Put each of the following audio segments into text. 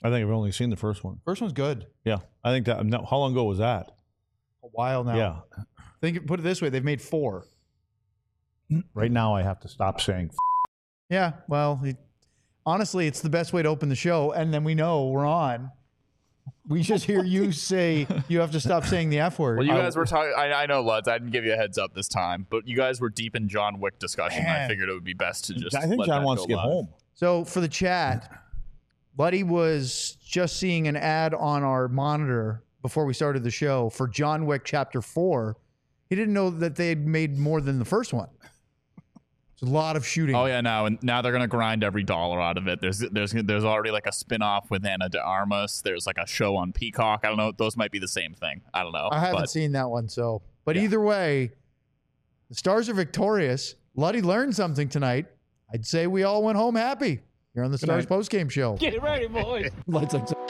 I think I've only seen the first one. First one's good. Yeah, I think that. No, how long ago was that? A while now. Yeah. Put it this way, they've made 4. Right now, I have to stop saying. Yeah, well, honestly, it's the best way to open the show, and then we know we're on. We just hear you say you have to stop saying the F word. Well, you guys were talking. I know, Luds. I didn't give you a heads up this time, but you guys were deep in John Wick discussion. Man. I figured it would be best to just. I think let John that wants go to get live. home. So for the chat, Buddy was just seeing an ad on our monitor before we started the show for John Wick Chapter 4. He didn't know that they had made more than the first one. It's a lot of shooting. Oh yeah, now they're gonna grind every dollar out of it. There's already like a spin-off with Ana de Armas. There's like a show on Peacock. I don't know. Those might be the same thing. I don't know. I haven't seen that one, so. But either way, the Stars are victorious. Luddy learned something tonight. I'd say we all went home happy. You're on the Stars postgame show. Get ready, boys. Let's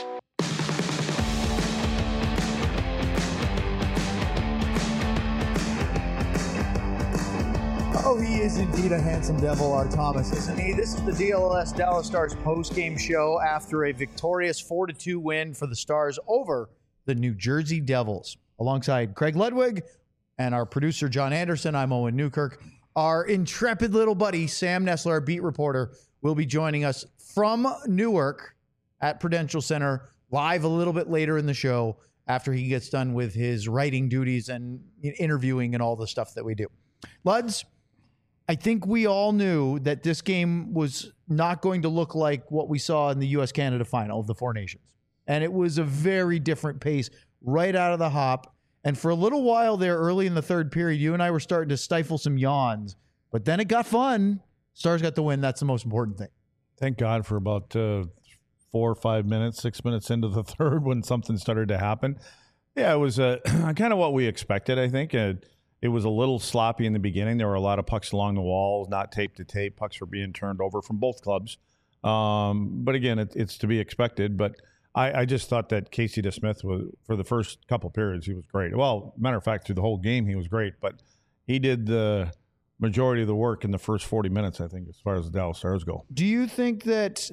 Oh, he is indeed a handsome devil, our Thomas, isn't he? This is the DLS Dallas Stars postgame show after a victorious 4-2 win for the Stars over the New Jersey Devils. Alongside Craig Ludwig and our producer, John Anderson, I'm Owen Newkirk. Our intrepid little buddy, Sam Nessler, our beat reporter, will be joining us from Newark at Prudential Center live a little bit later in the show after he gets done with his writing duties and interviewing and all the stuff that we do. Luds, I think we all knew that this game was not going to look like what we saw in the U.S.-Canada final of the Four Nations. And it was a very different pace right out of the hop. And for a little while there, early in the third period, you and I were starting to stifle some yawns. But then it got fun. Stars got the win. That's the most important thing. Thank God for about 4 or 5 minutes, 6 minutes into the third when something started to happen. Yeah, it was kind of what we expected, I think. It was a little sloppy in the beginning. There were a lot of pucks along the walls, not tape to tape. Pucks were being turned over from both clubs. But again, it's to be expected. But I just thought that Casey DeSmith was, for the first couple periods, he was great. Well, matter of fact, through the whole game, he was great. But he did the majority of the work in the first 40 minutes, I think, as far as the Dallas Stars go. Do you think that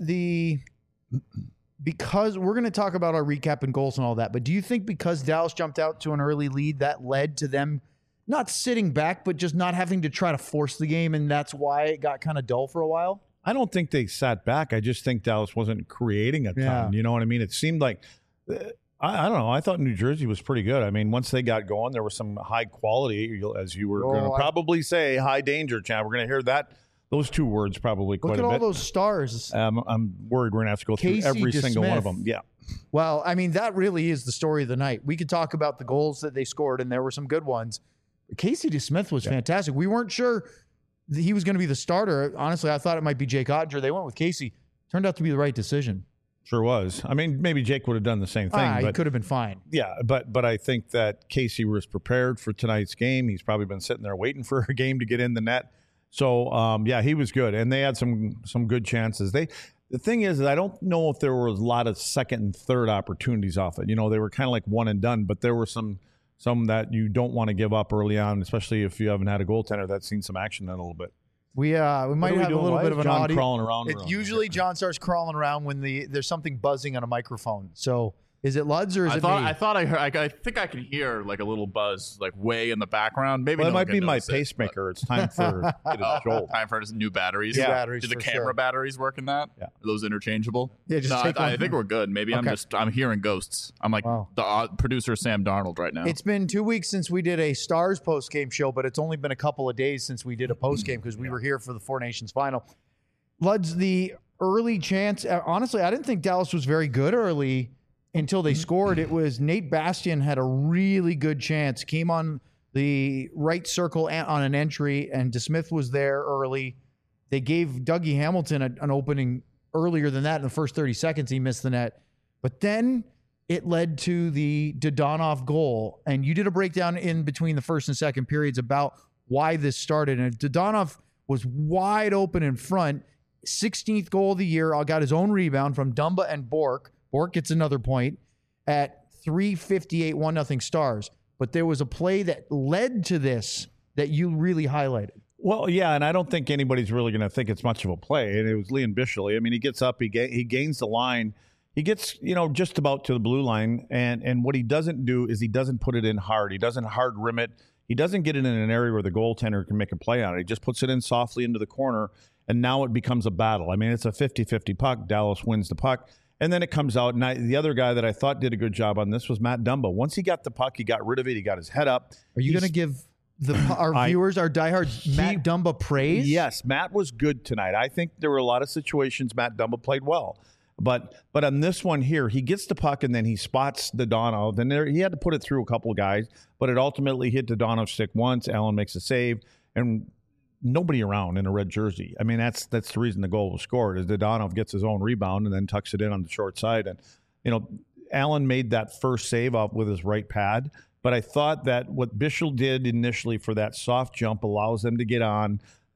because we're going to talk about our recap and goals and all that, but do you think because Dallas jumped out to an early lead, that led to them not sitting back, but just not having to try to force the game, and that's why it got kind of dull for a while? I don't think they sat back. I just think Dallas wasn't creating a ton. Yeah. You know what I mean? It seemed like, I don't know. I thought New Jersey was pretty good. I mean, once they got going, there was some high quality, as you were going to probably say, high danger, Chad. We're going to hear those two words probably quite a bit. Look at all those stars. I'm worried we're going to have to go Casey through every single one of DeSmith. them. Yeah. Well, I mean, that really is the story of the night. We could talk about the goals that they scored, and there were some good ones. Casey DeSmith was fantastic. We weren't sure that he was going to be the starter. Honestly, I thought it might be Jake Ottinger. They went with Casey. Turned out to be the right decision. Sure was. I mean, maybe Jake would have done the same thing. He But could have been fine. yeah, but I think that Casey was prepared for tonight's game. He's probably been sitting there waiting for a game to get in the net. So, yeah, he was good. And they had some good chances. The thing is that I don't know if there was a lot of second and third opportunities off it. You know, they were kind of like one and done, but there were some that you don't want to give up early on, especially if you haven't had a goaltender that's seen some action in a little bit. We might have a little bit of an John audio. crawling around. Usually John starts crawling around when there's something buzzing on a microphone. So is it Luds or is it me? I thought I heard. I think I could hear like a little buzz, like way in the background. Maybe Well, it no one might be can my notice it, pacemaker. It's time for Joel. time for new batteries. New batteries Do the for camera sure. batteries work in that? Yeah. Are those interchangeable? Yeah, just no, take I one. think we're good. Maybe Okay. I'm hearing ghosts. I'm like Wow. the producer Sam Darnold right now. It's been 2 weeks since we did a Stars post-game show, but it's only been a couple of days since we did a post-game because we were here for the Four Nations final. Luds, the early chance, honestly, I didn't think Dallas was very good early until they scored. It was Nate Bastian had a really good chance, came on the right circle on an entry, and DeSmith was there early. They gave Dougie Hamilton an opening earlier than that in the first 30 seconds. He missed the net. But then it led to the Dodonov goal. And you did a breakdown in between the first and second periods about why this started. And Dodonov was wide open in front. 16th goal of the year. Got his own rebound from Dumba and Bork. Bork gets another point at 3:58, 1-0 Stars. But there was a play that led to this that you really highlighted. Well, yeah, and I don't think anybody's really going to think it's much of a play. And it was Liam Bishley. I mean, he gets up, he gains the line. He gets, just about to the blue line, and what he doesn't do is he doesn't put it in hard. He doesn't hard rim it. He doesn't get it in an area where the goaltender can make a play on it. He just puts it in softly into the corner, and now it becomes a battle. I mean, it's a 50-50 puck. Dallas wins the puck, and then it comes out. And the other guy that I thought did a good job on this was Matt Dumba. Once he got the puck, he got rid of it. He got his head up. Are you going to give our viewers, our diehards, Matt Dumba praise? Yes, Matt was good tonight. I think there were a lot of situations Matt Dumba played well. But on this one here, he gets the puck and then he spots Dadonov. And he had to put it through a couple of guys, but it ultimately hit Dadonov's stick once. Allen makes a save, and nobody around in a red jersey. I mean, that's the reason the goal was scored, is Dadonov gets his own rebound and then tucks it in on the short side. And, Allen made that first save up with his right pad. But I thought that what Bichsel did initially for that soft jump allows them to get on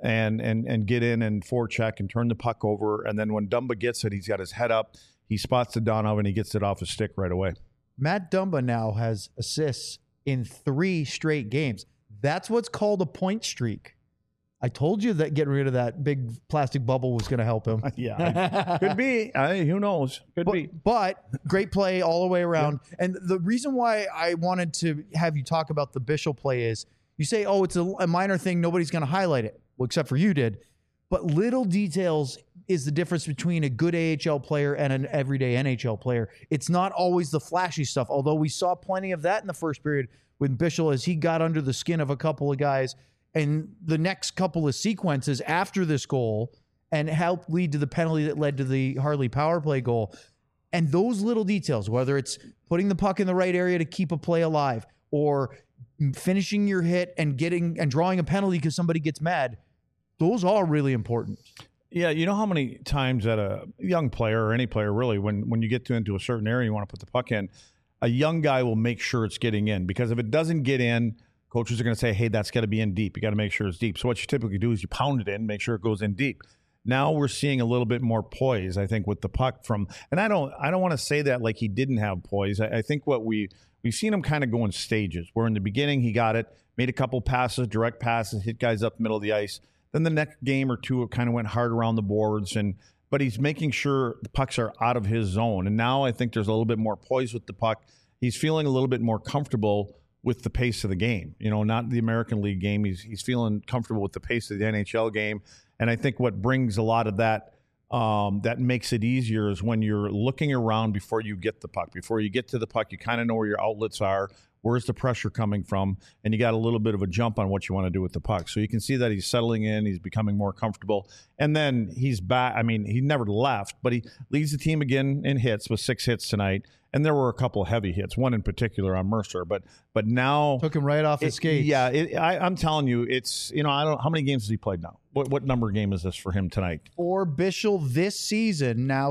and get in and forecheck and turn the puck over. And then when Dumba gets it, he's got his head up. He spots the Dadonov and he gets it off his stick right away. Matt Dumba now has assists in 3 straight games. That's what's called a point streak. I told you that getting rid of that big plastic bubble was going to help him. Yeah, could be. Who knows? Could be. But great play all the way around. Yeah. And the reason why I wanted to have you talk about the Bichsel play is you say, oh, it's a minor thing. Nobody's going to highlight it. Well, except for you did. But little details is the difference between a good AHL player and an everyday NHL player. It's not always the flashy stuff, although we saw plenty of that in the first period with Bichsel as he got under the skin of a couple of guys. And the next couple of sequences after this goal and helped lead to the penalty that led to the Harley power play goal. And those little details, whether it's putting the puck in the right area to keep a play alive or finishing your hit and drawing a penalty because somebody gets mad, those are really important. Yeah, you know how many times that a young player or any player really, when you get into a certain area you want to put the puck in, a young guy will make sure it's getting in, because if it doesn't get in, coaches are going to say, hey, that's got to be in deep. You got to make sure it's deep. So what you typically do is you pound it in, make sure it goes in deep. Now we're seeing a little bit more poise, I think, with the puck and I don't want to say that like he didn't have poise. I think what we've seen him kind of go in stages, where in the beginning he got it, made a couple passes, direct passes, hit guys up the middle of the ice. Then the next game or two, it kind of went hard around the boards, but he's making sure the pucks are out of his zone. And now I think there's a little bit more poise with the puck. He's feeling a little bit more comfortable with the pace of the game, not the American League game. He's feeling comfortable with the pace of the NHL game. And I think what brings a lot of that, that makes it easier, is when you're looking around before you get the puck. Before you get to the puck, you kind of know where your outlets are. Where's the pressure coming from? And you got a little bit of a jump on what you want to do with the puck. So you can see that he's settling in. He's becoming more comfortable. And then he's back. I mean, he never left, but he leads the team again in hits with 6 hits tonight. And there were a couple of heavy hits, one in particular on Mercer. But now took him right off his skates. Yeah, I'm telling you, it's I don't. How many games has he played now? What number game is this for him tonight? For Bichsel this season, now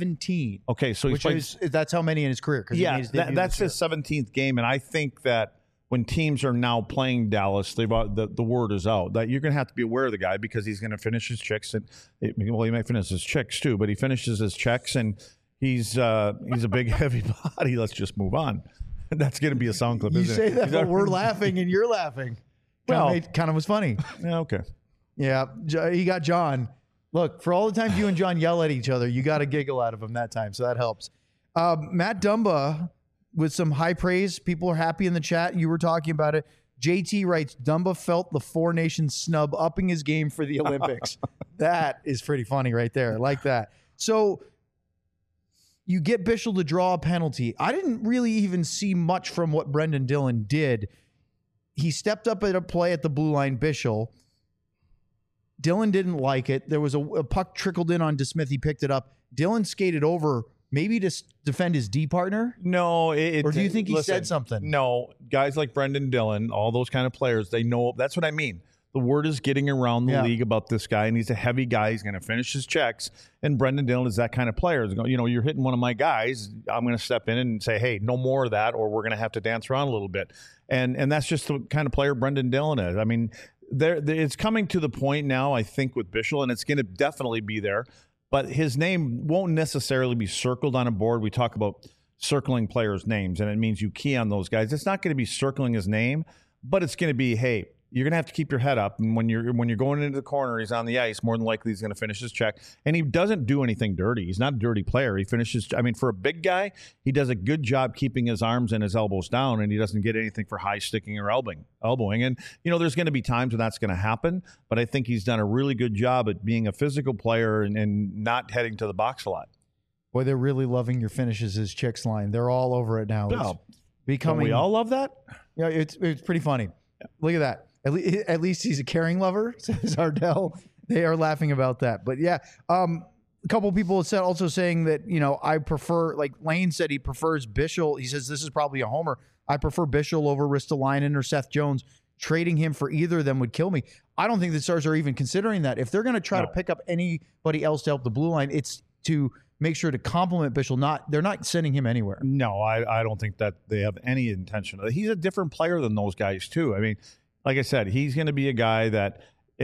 17. Okay, so he's played. That's how many in his career. Yeah, that's his 17th game, and I think that when teams are now playing Dallas, the word is out that you're going to have to be aware of the guy, because he's going to finish his checks, and he might finish his checks too, but he finishes his checks, and he's a big heavy body. Let's just move on. That's going to be a sound clip. You isn't say it? that, but we're laughing and you're laughing. Well, kind of was funny. Yeah, okay. Yeah, he got John. Look, for all the times you and John yell at each other, you got a giggle out of him that time, so that helps. Matt Dumba with some high praise. People are happy in the chat. You were talking about it. JT writes, Dumba felt the Four Nations snub, upping his game for the Olympics. That is pretty funny right there. I like that. So you get Bichsel to draw a penalty. I didn't really even see much from what Brendan Dillon did. He stepped up at a play at the blue line, Bichsel. Dillon didn't like it. There was a puck trickled in on DeSmith. He picked it up. Dillon skated over, maybe to defend his D partner. No, or do you think he said something? No, guys like Brendan Dillon, all those kind of players, they know. That's what I mean. The word is getting around the league about this guy, and he's a heavy guy. He's going to finish his checks, and Brendan Dillon is that kind of player. You're hitting one of my guys. I'm going to step in and say, hey, no more of that, or we're going to have to dance around a little bit. And that's just the kind of player Brendan Dillon is. I mean, it's coming to the point now, I think, with Bichsel, and it's going to definitely be there. But his name won't necessarily be circled on a board. We talk about circling players' names, and it means you key on those guys. It's not going to be circling his name, but it's going to be, hey, you're going to have to keep your head up. And when you're going into the corner, he's on the ice. More than likely, he's going to finish his check. And he doesn't do anything dirty. He's not a dirty player. He finishes. I mean, for a big guy, he does a good job keeping his arms and his elbows down, and he doesn't get anything for high sticking or elbowing. And there's going to be times when that's going to happen. But I think he's done a really good job at being a physical player and not heading to the box a lot. Boy, they're really loving your finishes as Chicks line. They're all over it now. No. It's becoming. Don't we all love that? Yeah, it's pretty funny. Yeah. Look at that. At least he's a caring lover, says Ardell. They are laughing about that. But yeah, a couple people said also saying that, I prefer, like Lane said, he prefers Bischel. He says this is probably a homer. I prefer Bischel over Ristolainen or Seth Jones. Trading him for either of them would kill me. I don't think the Stars are even considering that. If they're going to try to pick up anybody else to help the blue line, it's to make sure to compliment Bischel. They're not sending him anywhere. No, I don't think that they have any intention of it. He's a different player than those guys too. I mean, like I said, he's going to be a guy that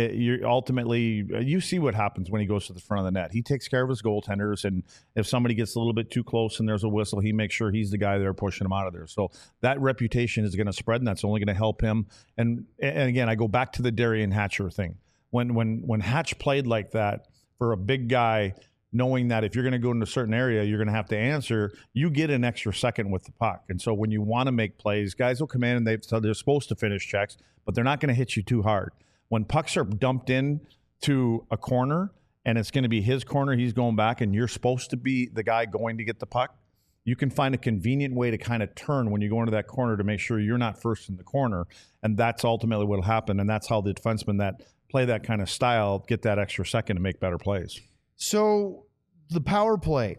you see what happens when he goes to the front of the net. He takes care of his goaltenders, and if somebody gets a little bit too close and there's a whistle, he makes sure he's the guy there pushing him out of there. So that reputation is going to spread, and that's only going to help him. And again, I go back to the Derian Hatcher thing. When Hatch played like that for a big guy, knowing that if you're going to go into a certain area, you're going to have to answer, you get an extra second with the puck. And so when you want to make plays, guys will come in and they're supposed to finish checks, but they're not going to hit you too hard. When pucks are dumped in to a corner and it's going to be his corner, he's going back, and you're supposed to be the guy going to get the puck, you can find a convenient way to kind of turn when you go into that corner to make sure you're not first in the corner. And that's ultimately what will happen. And that's how the defensemen that play that kind of style get that extra second to make better plays. So the power play,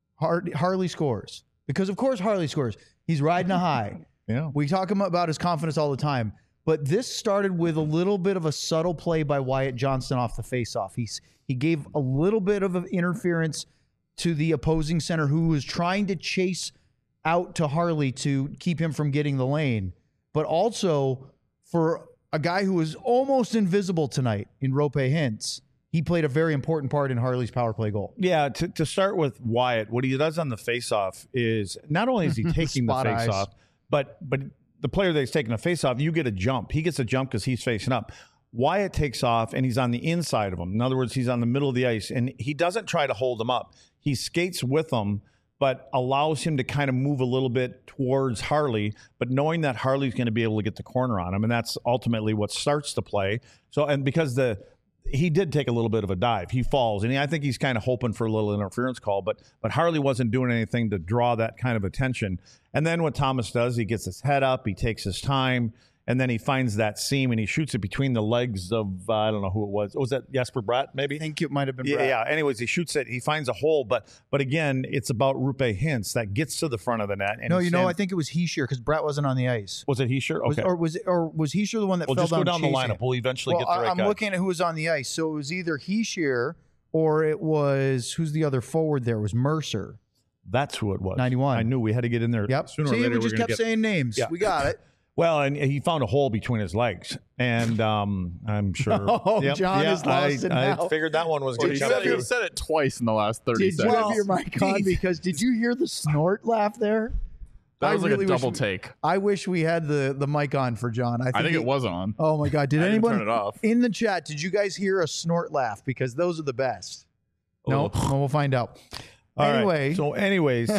Harley scores. Because, of course, Harley scores. He's riding a high. Yeah. We talk about his confidence all the time. But this started with a little bit of a subtle play by Wyatt Johnston off the faceoff. He gave a little bit of interference to the opposing center who was trying to chase out to Harley to keep him from getting the lane. But also for a guy who was almost invisible tonight in Roope Hintz, he played a very important part in Harley's power play goal. Yeah, to start with Wyatt, what he does on the faceoff is not only is he taking the faceoff, but the player that's taking a faceoff, you get a jump. He gets a jump because he's facing up. Wyatt takes off, and he's on the inside of him. In other words, he's on the middle of the ice, and he doesn't try to hold him up. He skates with him, but allows him to kind of move a little bit towards Harley, but knowing that Harley's going to be able to get the corner on him, and that's ultimately what starts the play. So, and because he did take a little bit of a dive. He falls, and I think he's kind of hoping for a little interference call, but Harley wasn't doing anything to draw that kind of attention. And then what Thomas does, he gets his head up, he takes his time, and then he finds that seam, and he shoots it between the legs of, I don't know who it was. Was that Jesper Bratt, maybe? I think it might have been Bratt. Yeah. Anyways, he shoots it. He finds a hole, but again, it's about Roope Hintz that gets to the front of the net. And I think it was Heischer because Bratt wasn't on the ice. Was it Heischer? Okay. Was Heischer the one that fell down? Just go down the lineup. Him? We'll eventually get the right guy. I'm looking at who was on the ice. So it was either Heischer or it was, who's the other forward there? It was Mercer. That's who it was. 91. I knew we had to get in there. Yep. Sooner or later, we just kept saying names. Yeah. We got it. Well, and he found a hole between his legs, and I'm sure. John is lost it now. I figured that one was good. You said it twice in the last 30 seconds. Did you have your mic on? Because did you hear the snort laugh there? That was like a double take. I wish we had the mic on for John. I think it was on. Oh my God! Did anyone turn it off in the chat? Did you guys hear a snort laugh? Because those are the best. No, we'll find out. Anyway, anyways,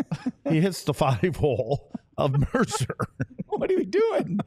he hits the 5 hole of Mercer. What are you doing?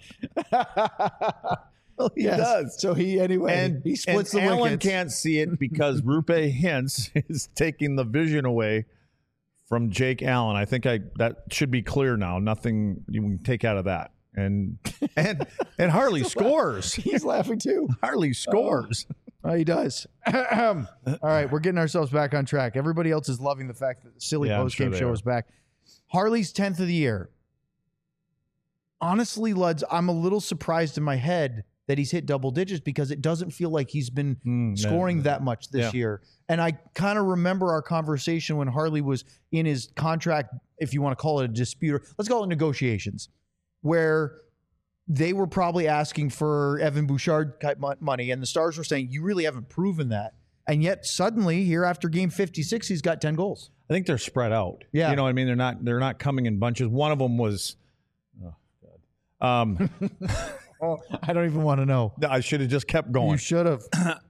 Well, he does. So he splits the Alan wickets. Can't see it because Roope Hintz is taking the vision away from Jake Allen. I think that should be clear now. Nothing you can take out of that. And Harley scores. He's laughing too. Harley scores. Oh, he does. All right, we're getting ourselves back on track. Everybody else is loving the fact that the silly post-game show is back. Harley's 10th of the year. Honestly, Luds, I'm a little surprised in my head that he's hit double digits because it doesn't feel like he's been scoring that much this year. And I kind of remember our conversation when Harley was in his contract, if you want to call it a dispute, let's call it negotiations, where they were probably asking for Evan Bouchard type money, and the Stars were saying, you really haven't proven that. And yet suddenly, here after game 56, he's got 10 goals. I think they're spread out. Yeah. You know what I mean? They're not coming in bunches. One of them was Oh, I don't even want to know. I should have just kept going. You should have.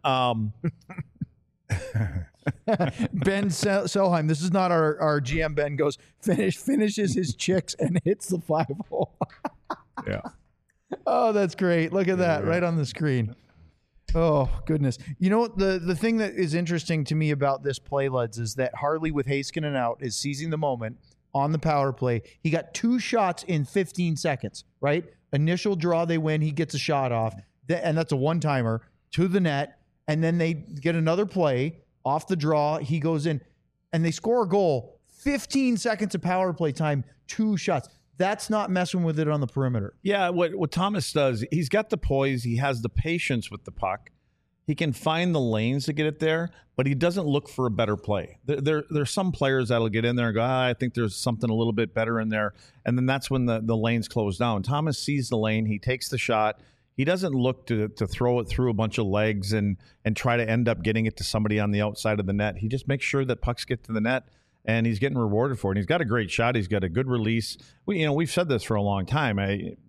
Ben Selheim, this is not our GM. Ben goes, finishes his chicks and hits the 5-hole. Yeah. Oh, that's great. Look at that right on the screen. Oh, goodness. You know, the thing that is interesting to me about this play, Luds, is that Harley with Heiskanen out is seizing the moment on the power play. He got 2 shots in 15 seconds, right? Initial draw, they win. He gets a shot off, and that's a one-timer to the net, and then they get another play off the draw. He goes in, and they score a goal. 15 seconds of power play time, 2 shots. That's not messing with it on the perimeter. Yeah, what Thomas does, he's got the poise. He has the patience with the puck. He can find the lanes to get it there, but he doesn't look for a better play. There's some players that'll get in there and go, I think there's something a little bit better in there. And then that's when the lanes close down. Thomas sees the lane. He takes the shot. He doesn't look to throw it through a bunch of legs and try to end up getting it to somebody on the outside of the net. He just makes sure that pucks get to the net. And he's getting rewarded for it. And he's got a great shot. He's got a good release. We've said this for a long time.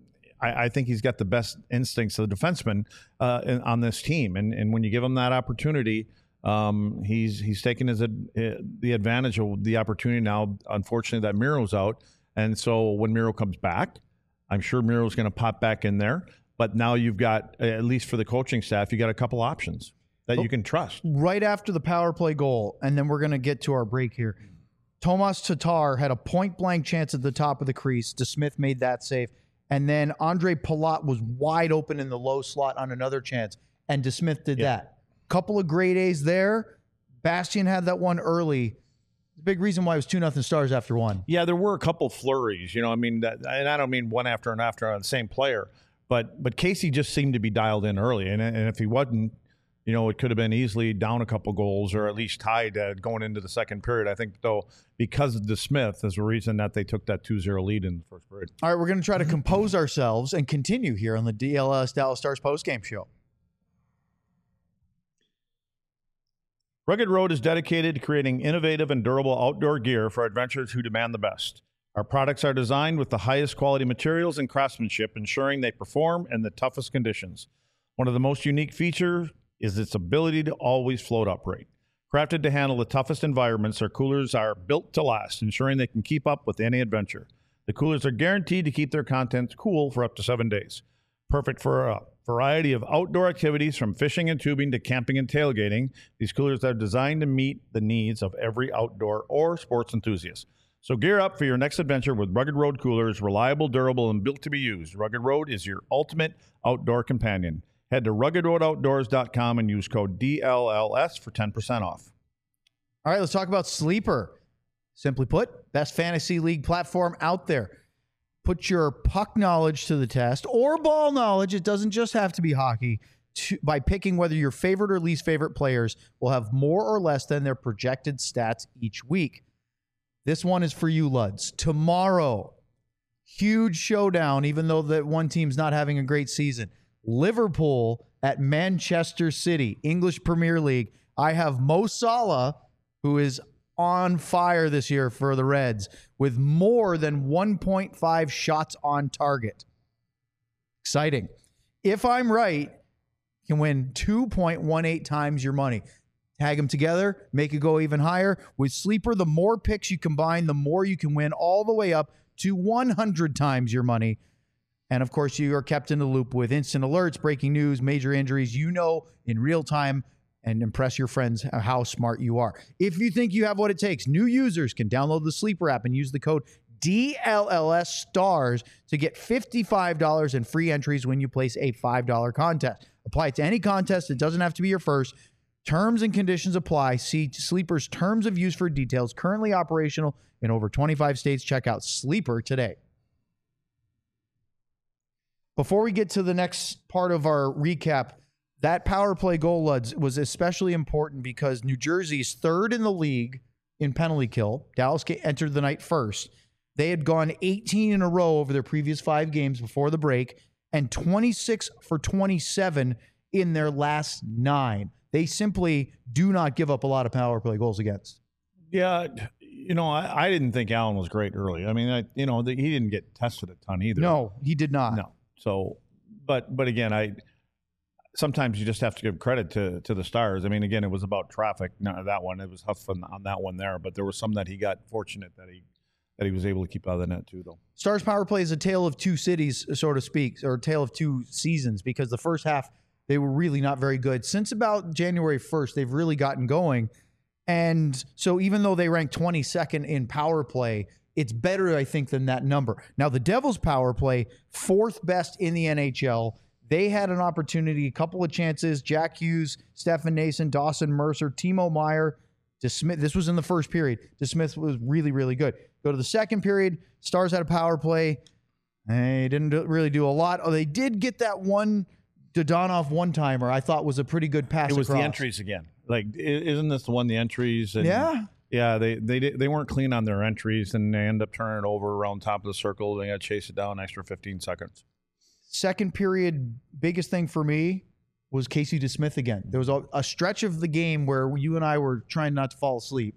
I think he's got the best instincts of the defenseman on this team. And when you give him that opportunity, he's taking the advantage of the opportunity now. Unfortunately, that Miro's out. And so when Miro comes back, I'm sure Miro's going to pop back in there. But now you've got, at least for the coaching staff, you got a couple options that you can trust. Right after the power play goal, and then we're going to get to our break here. Tomas Tatar had a point-blank chance at the top of the crease. DeSmith made that save. And then Andre Palat was wide open in the low slot on another chance, and DeSmith did that. Couple of grade A's there. Bastian had that one early. The big reason why it was 2-0 Stars after one. Yeah, there were a couple flurries. I mean, and I don't mean one after and after on the same player, but Casey just seemed to be dialed in early. And if he wasn't, it could have been easily down a couple goals or at least tied going into the second period. I think, though, because of DeSmith is the reason that they took that 2-0 lead in the first period. All right, we're going to try to compose ourselves and continue here on the DLS Dallas Stars postgame show. Rugged Road is dedicated to creating innovative and durable outdoor gear for adventurers who demand the best. Our products are designed with the highest quality materials and craftsmanship, ensuring they perform in the toughest conditions. One of the most unique features is its ability to always float upright. Crafted to handle the toughest environments, our coolers are built to last, ensuring they can keep up with any adventure. The coolers are guaranteed to keep their contents cool for up to 7 days. Perfect for a variety of outdoor activities from fishing and tubing to camping and tailgating. These coolers are designed to meet the needs of every outdoor or sports enthusiast. So gear up for your next adventure with Rugged Road coolers, reliable, durable, and built to be used. Rugged Road is your ultimate outdoor companion. Head to ruggedroadoutdoors.com and use code DLLS for 10% off. All right, let's talk about Sleeper. Simply put, best fantasy league platform out there. Put your puck knowledge to the test or ball knowledge. It doesn't just have to be hockey. By picking whether your favorite or least favorite players will have more or less than their projected stats each week. This one is for you, Luds. Tomorrow, huge showdown, even though that one team's not having a great season. Liverpool at Manchester City, English Premier League. I have Mo Salah, who is on fire this year for the Reds, with more than 1.5 shots on target. Exciting. If I'm right, you can win 2.18 times your money. Tag them together, make it go even higher. With Sleeper, the more picks you combine, the more you can win, all the way up to 100 times your money. And, of course, you are kept in the loop with instant alerts, breaking news, major injuries, in real time, and impress your friends how smart you are. If you think you have what it takes, new users can download the Sleeper app and use the code DLLS Stars to get $55 in free entries when you place a $5 contest. Apply it to any contest. It doesn't have to be your first. Terms and conditions apply. See Sleeper's terms of use for details. Currently operational in over 25 states. Check out Sleeper today. Before we get to the next part of our recap, that power play goal, Luds, was especially important because New Jersey's third in the league in penalty kill. Dallas entered the night first. They had gone 18 in a row over their previous 5 games before the break and 26 for 27 in their last 9. They simply do not give up a lot of power play goals against. Yeah, I didn't think Allen was great early. I mean, he didn't get tested a ton either. No, he did not. No. So, But again, sometimes you just have to give credit to the Stars. I mean, again, it was about traffic. None that one. It was tough on that one there, but there was some that he got fortunate that he was able to keep out of the net too, though. Stars power play is a tale of two cities, so to speak, or a tale of two seasons, because the first half they were really not very good. Since about January 1st, they've really gotten going. And so even though they ranked 22nd in power play, it's better, I think, than that number. Now, the Devils' power play, 4th best in the NHL. They had an opportunity, a couple of chances. Jack Hughes, Stefan Nason, Dawson Mercer, Timo Meier, DeSmith. This was in the first period. DeSmith was really, really good. Go to the second period. Stars had a power play. They didn't really do a lot. Oh, they did get that one Dodonov one-timer I thought was a pretty good pass. It was across. the entries again. Like, isn't this the one, the entries? And Yeah. they weren't clean on their entries, and they end up turning it over around top of the circle. They got to chase it down an extra 15 seconds. Second period, biggest thing for me was Casey DeSmith again. There was a stretch of the game where you and I were trying not to fall asleep,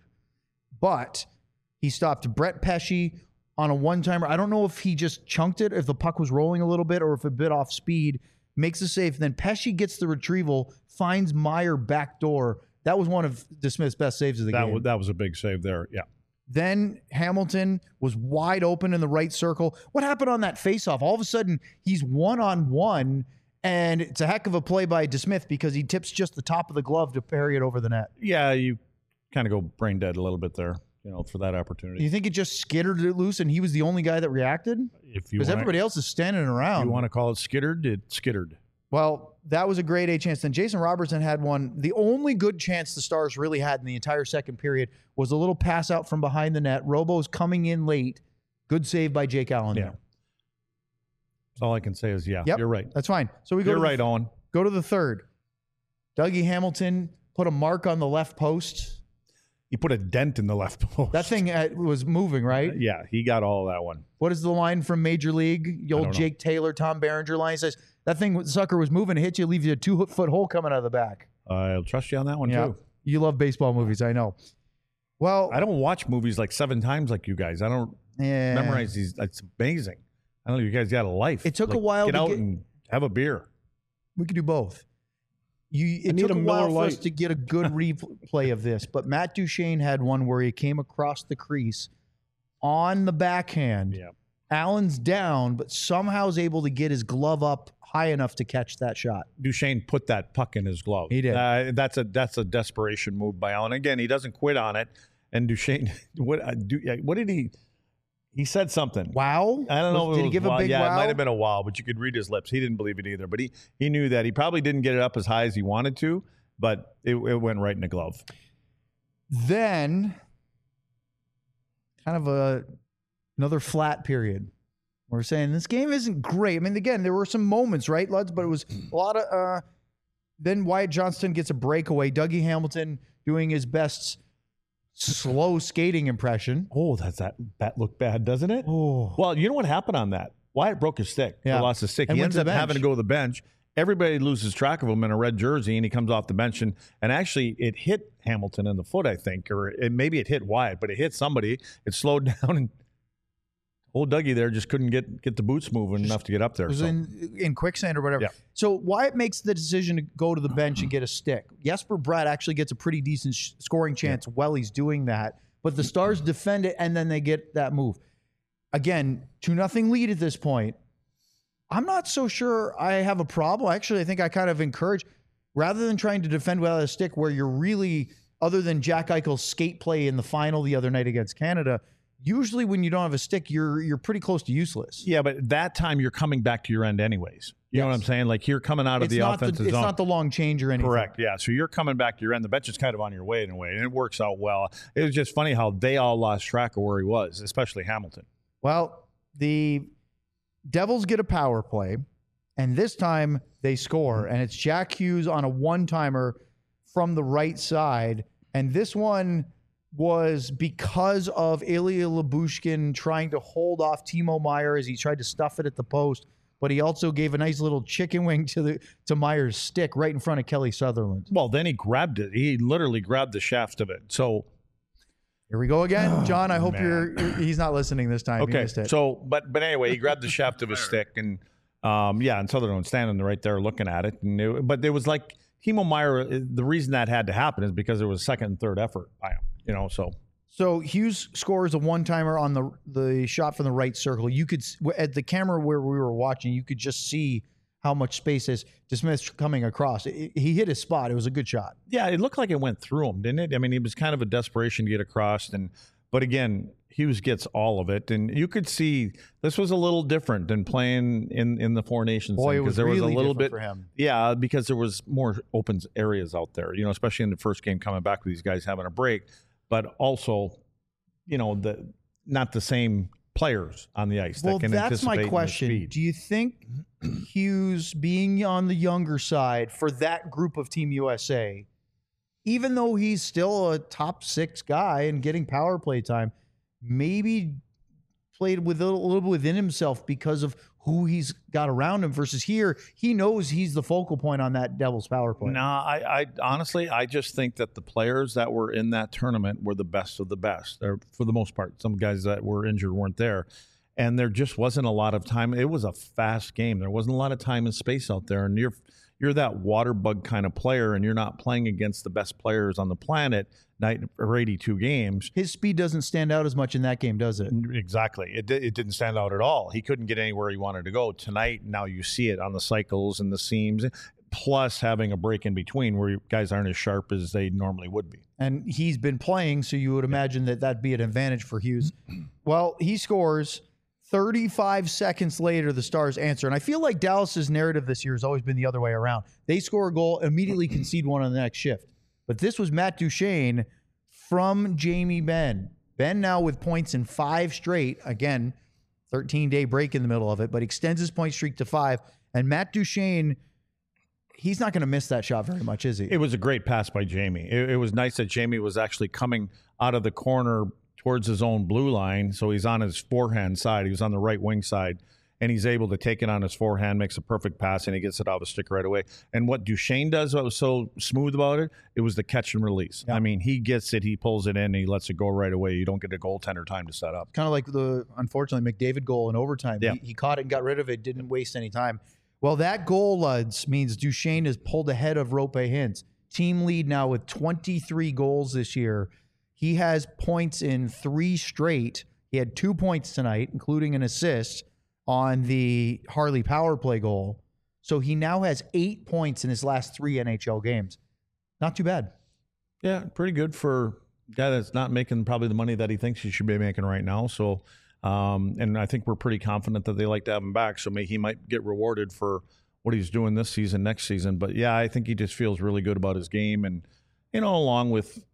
but he stopped Brett Pesce on a one-timer. I don't know if he just chunked it, if the puck was rolling a little bit, or if it bit off speed, makes a save. Then Pesce gets the retrieval, finds Meier backdoor. That was one of DeSmith's best saves of the game. That was a big save there, yeah. Then Hamilton was wide open in the right circle. What happened on that faceoff? All of a sudden, he's one-on-one, and it's a heck of a play by DeSmith because he tips just the top of the glove to parry it over the net. Yeah, you kind of go brain dead a little bit there, for that opportunity. You think it just skittered it loose and he was the only guy that reacted? Because everybody else is standing around. You want to call it skittered? It skittered. Well, that was a grade A chance. Then Jason Robertson had one. The only good chance the Stars really had in the entire second period was a little pass out from behind the net. Robo's coming in late. Good save by Jake Allen. Yeah. That's all I can say is, Yep, you're right. That's fine. So we go. You're right, Owen. Go to the third. Dougie Hamilton put a mark on the left post. He put a dent in the left post. That thing was moving, right? Yeah, he got all that one. What is the line from Major League? The old Jake Taylor, Tom Berenger line says, that thing, sucker was moving, hit you, leave you a 2-foot hole coming out of the back. I'll trust you on that one, too. You love baseball movies, I know. Well, I don't watch movies like 7 times like you guys. I don't memorize these. It's amazing. I don't know. You guys got a life. It took a while to get and have a beer. We could do both. It took a while for us to get a good replay of this, but Matt Duchene had one where he came across the crease on the backhand. Yeah. Allen's down, but somehow is able to get his glove up high enough to catch that shot. Duchene put that puck in his glove. He did. That's a desperation move by Allen. Again, he doesn't quit on it. And Duchene, what did he? He said something. Wow. I don't know. Did he give a big wow? Yeah, it might have been a wow, but you could read his lips. He didn't believe it either. But he knew that he probably didn't get it up as high as he wanted to, but it went right in the glove. Then, kind of another flat period. We're saying this game isn't great. I mean, again, there were some moments, right, Luds? But it was a lot of. Then Wyatt Johnston gets a breakaway. Dougie Hamilton doing his best slow skating impression. Oh, that looked bad, doesn't it? Oh. Well, you know what happened on that? Wyatt broke his stick. Yeah. He lost his stick. And He went ends to up the bench. having to go to the bench. Everybody loses track of him in a red jersey, and he comes off the bench. And actually, it hit Hamilton in the foot, I think, or maybe it hit Wyatt, but it hit somebody. It slowed down, and old Dougie there just couldn't get the boots moving enough to get up there. It was in quicksand or whatever. Yeah. So Wyatt makes the decision to go to the bench and get a stick. Jesper Bratt actually gets a pretty decent scoring chance while he's doing that. But the Stars defend it, and then they get that move. Again, 2-0 lead at this point. I'm not so sure I have a problem. Actually, I think I kind of encourage, rather than trying to defend without a stick where you're really, other than Jack Eichel's skate play in the final the other night against Canada, usually when you don't have a stick, you're pretty close to useless. Yeah, but that time you're coming back to your end anyways. You know what I'm saying? Like you're coming out of the offensive zone. It's not the long change or anything. Correct, yeah. So you're coming back to your end. The bench is kind of on your way in a way, and it works out well. It was just funny how they all lost track of where he was, especially Hamilton. Well, the Devils get a power play, and this time they score, and it's Jack Hughes on a one-timer from the right side, and this one was because of Ilya Lyubushkin trying to hold off Timo Meier as he tried to stuff it at the post, but he also gave a nice little chicken wing to Meier's stick right in front of Kelly Sutherland. Well, then he grabbed it. He literally grabbed the shaft of it. So here we go again, John. I hope he's not listening this time. Okay. So, but anyway, he grabbed the shaft of his stick, and Yeah, and Sutherland standing right there looking at it. But it was like Timo Meier, the reason that had to happen is because there was a second and third effort by him, So Hughes scores a one-timer on the shot from the right circle. You could, at the camera where we were watching, you could just see how much space is DeSmith coming across. He hit his spot. It was a good shot. Yeah, it looked like it went through him, didn't it? I mean, it was kind of a desperation to get across. But again, Hughes gets all of it. And you could see this was a little different than playing in the Four Nations. Boy, it was there really was a little bit for him. Yeah, because there was more open areas out there, especially in the first game coming back with these guys having a break. But also, not the same players on the ice. Well, that can that's my anticipate question. the speed. Do you think Hughes being on the younger side for that group of Team USA, even though he's still a top 6 guy and getting power play time, maybe played with a little bit within himself because of who he's got around him versus here, he knows he's the focal point on that Devils power play? No, I honestly, I just think that the players that were in that tournament were the best of the best. For the most part, some guys that were injured weren't there. And there just wasn't a lot of time. It was a fast game. There wasn't a lot of time and space out there. And you're that water bug kind of player, and you're not playing against the best players on the planet or 82 games. His speed doesn't stand out as much in that game, does it? Exactly. It didn't stand out at all. He couldn't get anywhere he wanted to go. Tonight, now you see it on the cycles and the seams, plus having a break in between where guys aren't as sharp as they normally would be. And he's been playing, so you would imagine that that'd be an advantage for Hughes. Well, he scores. 35 seconds later, the Stars answer. And I feel like Dallas's narrative this year has always been the other way around. They score a goal, immediately concede one on the next shift. But this was Matt Duchene from Jamie Benn. Benn now with points in 5 straight. Again, 13-day break in the middle of it, but extends his point streak to 5. And Matt Duchene, he's not going to miss that shot very much, is he? It was a great pass by Jamie. It was nice that Jamie was actually coming out of the corner towards his own blue line, so he's on his forehand side. He was on the right wing side, and he's able to take it on his forehand, makes a perfect pass, and he gets it out of the stick right away. And what Duchene does, what was so smooth about it, it was the catch and release. Yeah. I mean, he gets it, he pulls it in, he lets it go right away. You don't get a goaltender time to set up. Kind of like the, unfortunately, McDavid goal in overtime. Yeah. He caught it and got rid of it, didn't waste any time. Well, that goal, Luds, means Duchene is pulled ahead of Roope Hintz. Team lead now with 23 goals this year. He has points in 3 straight. He had 2 points tonight, including an assist on the Harley power play goal. So he now has 8 points in his last 3 NHL games. Not too bad. Yeah, pretty good for a guy that's not making probably the money that he thinks he should be making right now. So, and I think we're pretty confident that they like to have him back. So he might get rewarded for what he's doing this season, next season. But yeah, I think he just feels really good about his game. And, along with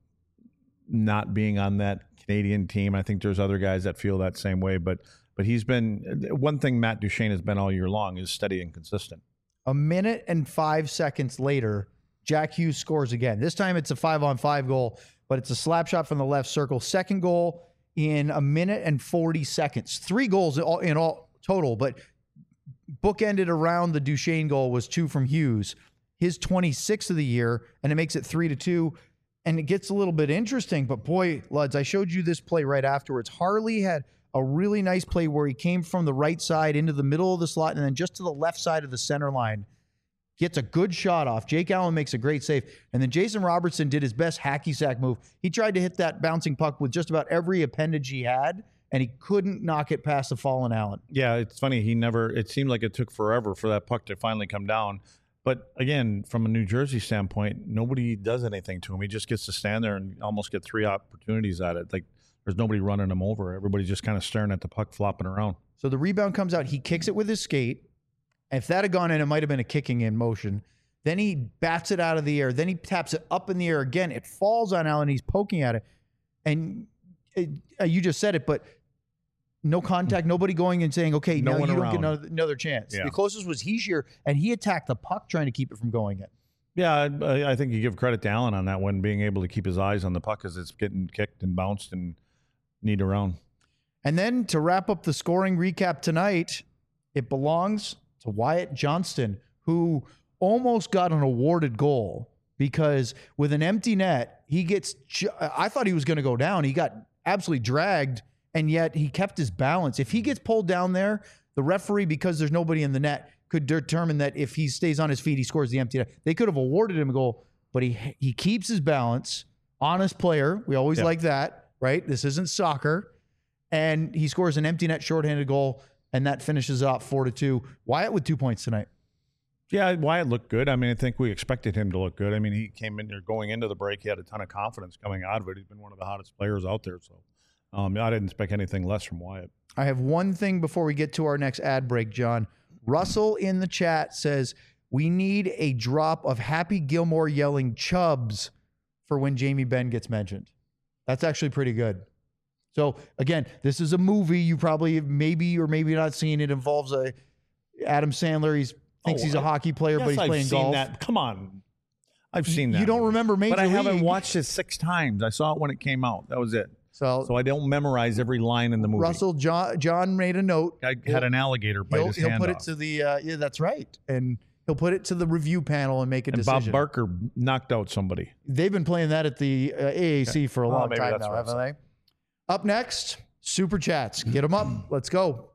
not being on that Canadian team, I think there's other guys that feel that same way. But he's been, one thing Matt Duchene has been all year long is steady and consistent. A minute and 5 seconds later, Jack Hughes scores again. This time it's a 5-on-5 goal, but it's a slap shot from the left circle. Second goal in a minute and 40 seconds. 3 goals in all total, but bookended around the Duchene goal was 2 from Hughes. His 26th of the year, and it makes it 3-2. And it gets a little bit interesting, but boy, Luds, I showed you this play right afterwards. Harley had a really nice play where he came from the right side into the middle of the slot and then just to the left side of the center line. Gets a good shot off. Jake Allen makes a great save. And then Jason Robertson did his best hacky sack move. He tried to hit that bouncing puck with just about every appendage he had, and he couldn't knock it past the fallen Allen. Yeah, it's funny. It seemed like it took forever for that puck to finally come down. But again, from a New Jersey standpoint, nobody does anything to him. He just gets to stand there and almost get 3 opportunities at it. Like there's nobody running him over. Everybody's just kind of staring at the puck flopping around. So the rebound comes out. He kicks it with his skate. If that had gone in, it might have been a kicking in motion. Then he bats it out of the air. Then he taps it up in the air again. It falls on Allen. He's poking at it. And you just said it, but no contact, nobody going and saying, okay, no now one you around. don't get another chance. Yeah. The closest was Hischier, and he attacked the puck trying to keep it from going in. Yeah, I think you give credit to Allen on that one, being able to keep his eyes on the puck as it's getting kicked and bounced and kneed around. And then to wrap up the scoring recap tonight, it belongs to Wyatt Johnston, who almost got an awarded goal because with an empty net, I thought he was going to go down. He got absolutely dragged, and yet he kept his balance. If he gets pulled down there, the referee, because there's nobody in the net, could determine that if he stays on his feet, he scores the empty net. They could have awarded him a goal, but he keeps his balance. Honest player. We always like that, right? This isn't soccer. And he scores an empty net shorthanded goal, and that finishes off 4-2. Wyatt with 2 points tonight. Yeah, Wyatt looked good. I mean, I think we expected him to look good. I mean, he came in there going into the break. He had a ton of confidence coming out of it. He's been one of the hottest players out there. So I didn't expect anything less from Wyatt. I have one thing before we get to our next ad break, John. Russell in the chat says, we need a drop of Happy Gilmore yelling Chubbs for when Jamie Benn gets mentioned. That's actually pretty good. So, again, this is a movie. You probably maybe or maybe not seen. It involves Adam Sandler. He thinks he's a hockey player, but he's playing golf. That. Come on. I've seen that. You don't remember Major But I haven't League. watched it 6 times. I saw it when it came out. That was it. So I don't memorize every line in the movie. Russell, John made a note. I had an alligator bite his hand He'll put off. it to the, yeah, that's right. And he'll put it to the review panel and make a And decision. Bob Barker knocked out somebody. They've been playing that at the AAC for a long maybe time that's now, what I haven't they? Up next, Super Chats. Get them up. Let's go.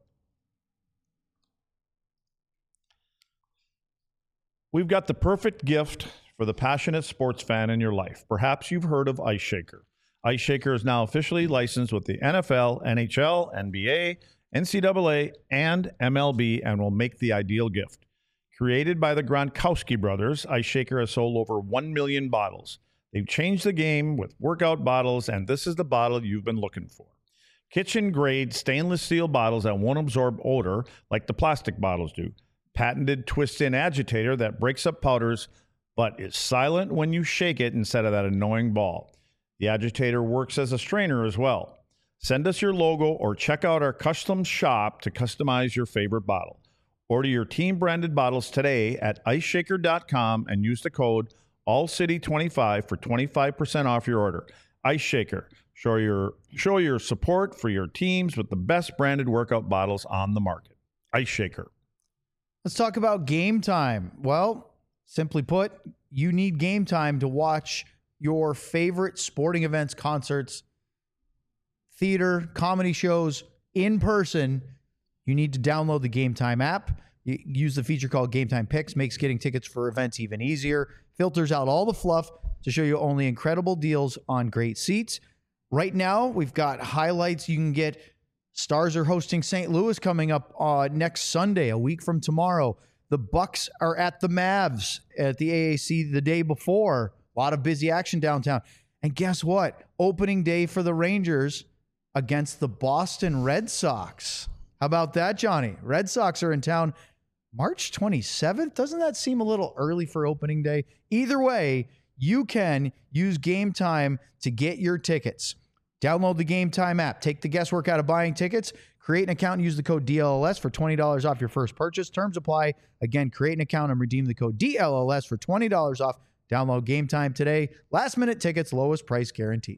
We've got the perfect gift for the passionate sports fan in your life. Perhaps you've heard of Ice Shaker. Ice Shaker is now officially licensed with the NFL, NHL, NBA, NCAA, and MLB and will make the ideal gift. Created by the Gronkowski brothers, Ice Shaker has sold over 1 million bottles. They've changed the game with workout bottles, and this is the bottle you've been looking for. Kitchen-grade stainless steel bottles that won't absorb odor like the plastic bottles do. Patented twist-in agitator that breaks up powders but is silent when you shake it instead of that annoying ball. The agitator works as a strainer as well. Send us your logo or check out our custom shop to customize your favorite bottle. Order your team-branded bottles today at iceshaker.com and use the code ALLCITY25 for 25% off your order. Ice Shaker. Show your support for your teams with the best branded workout bottles on the market. Ice Shaker. Let's talk about Game Time. Well, simply put, you need Game Time to watch your favorite sporting events, concerts, theater, comedy shows in person. You need to download the Game Time app. You use the feature called Game Time Picks, makes getting tickets for events even easier, filters out all the fluff to show you only incredible deals on great seats. Right now, we've got highlights you can get. Stars are hosting St. Louis coming up next Sunday, a week from tomorrow. The Bucks are at the Mavs at the AAC the day before. A lot of busy action downtown. And guess what? Opening day for the Rangers against the Boston Red Sox. How about that, Johnny? Red Sox are in town March 27th. Doesn't that seem a little early for opening day? Either way, you can use Game Time to get your tickets. Download the Game Time app. Take the guesswork out of buying tickets. Create an account and use the code DLLS for $20 off your first purchase. Terms apply. Again, create an account and redeem the code DLLS for $20 off. Download Game Time today. Last minute tickets, lowest price guaranteed.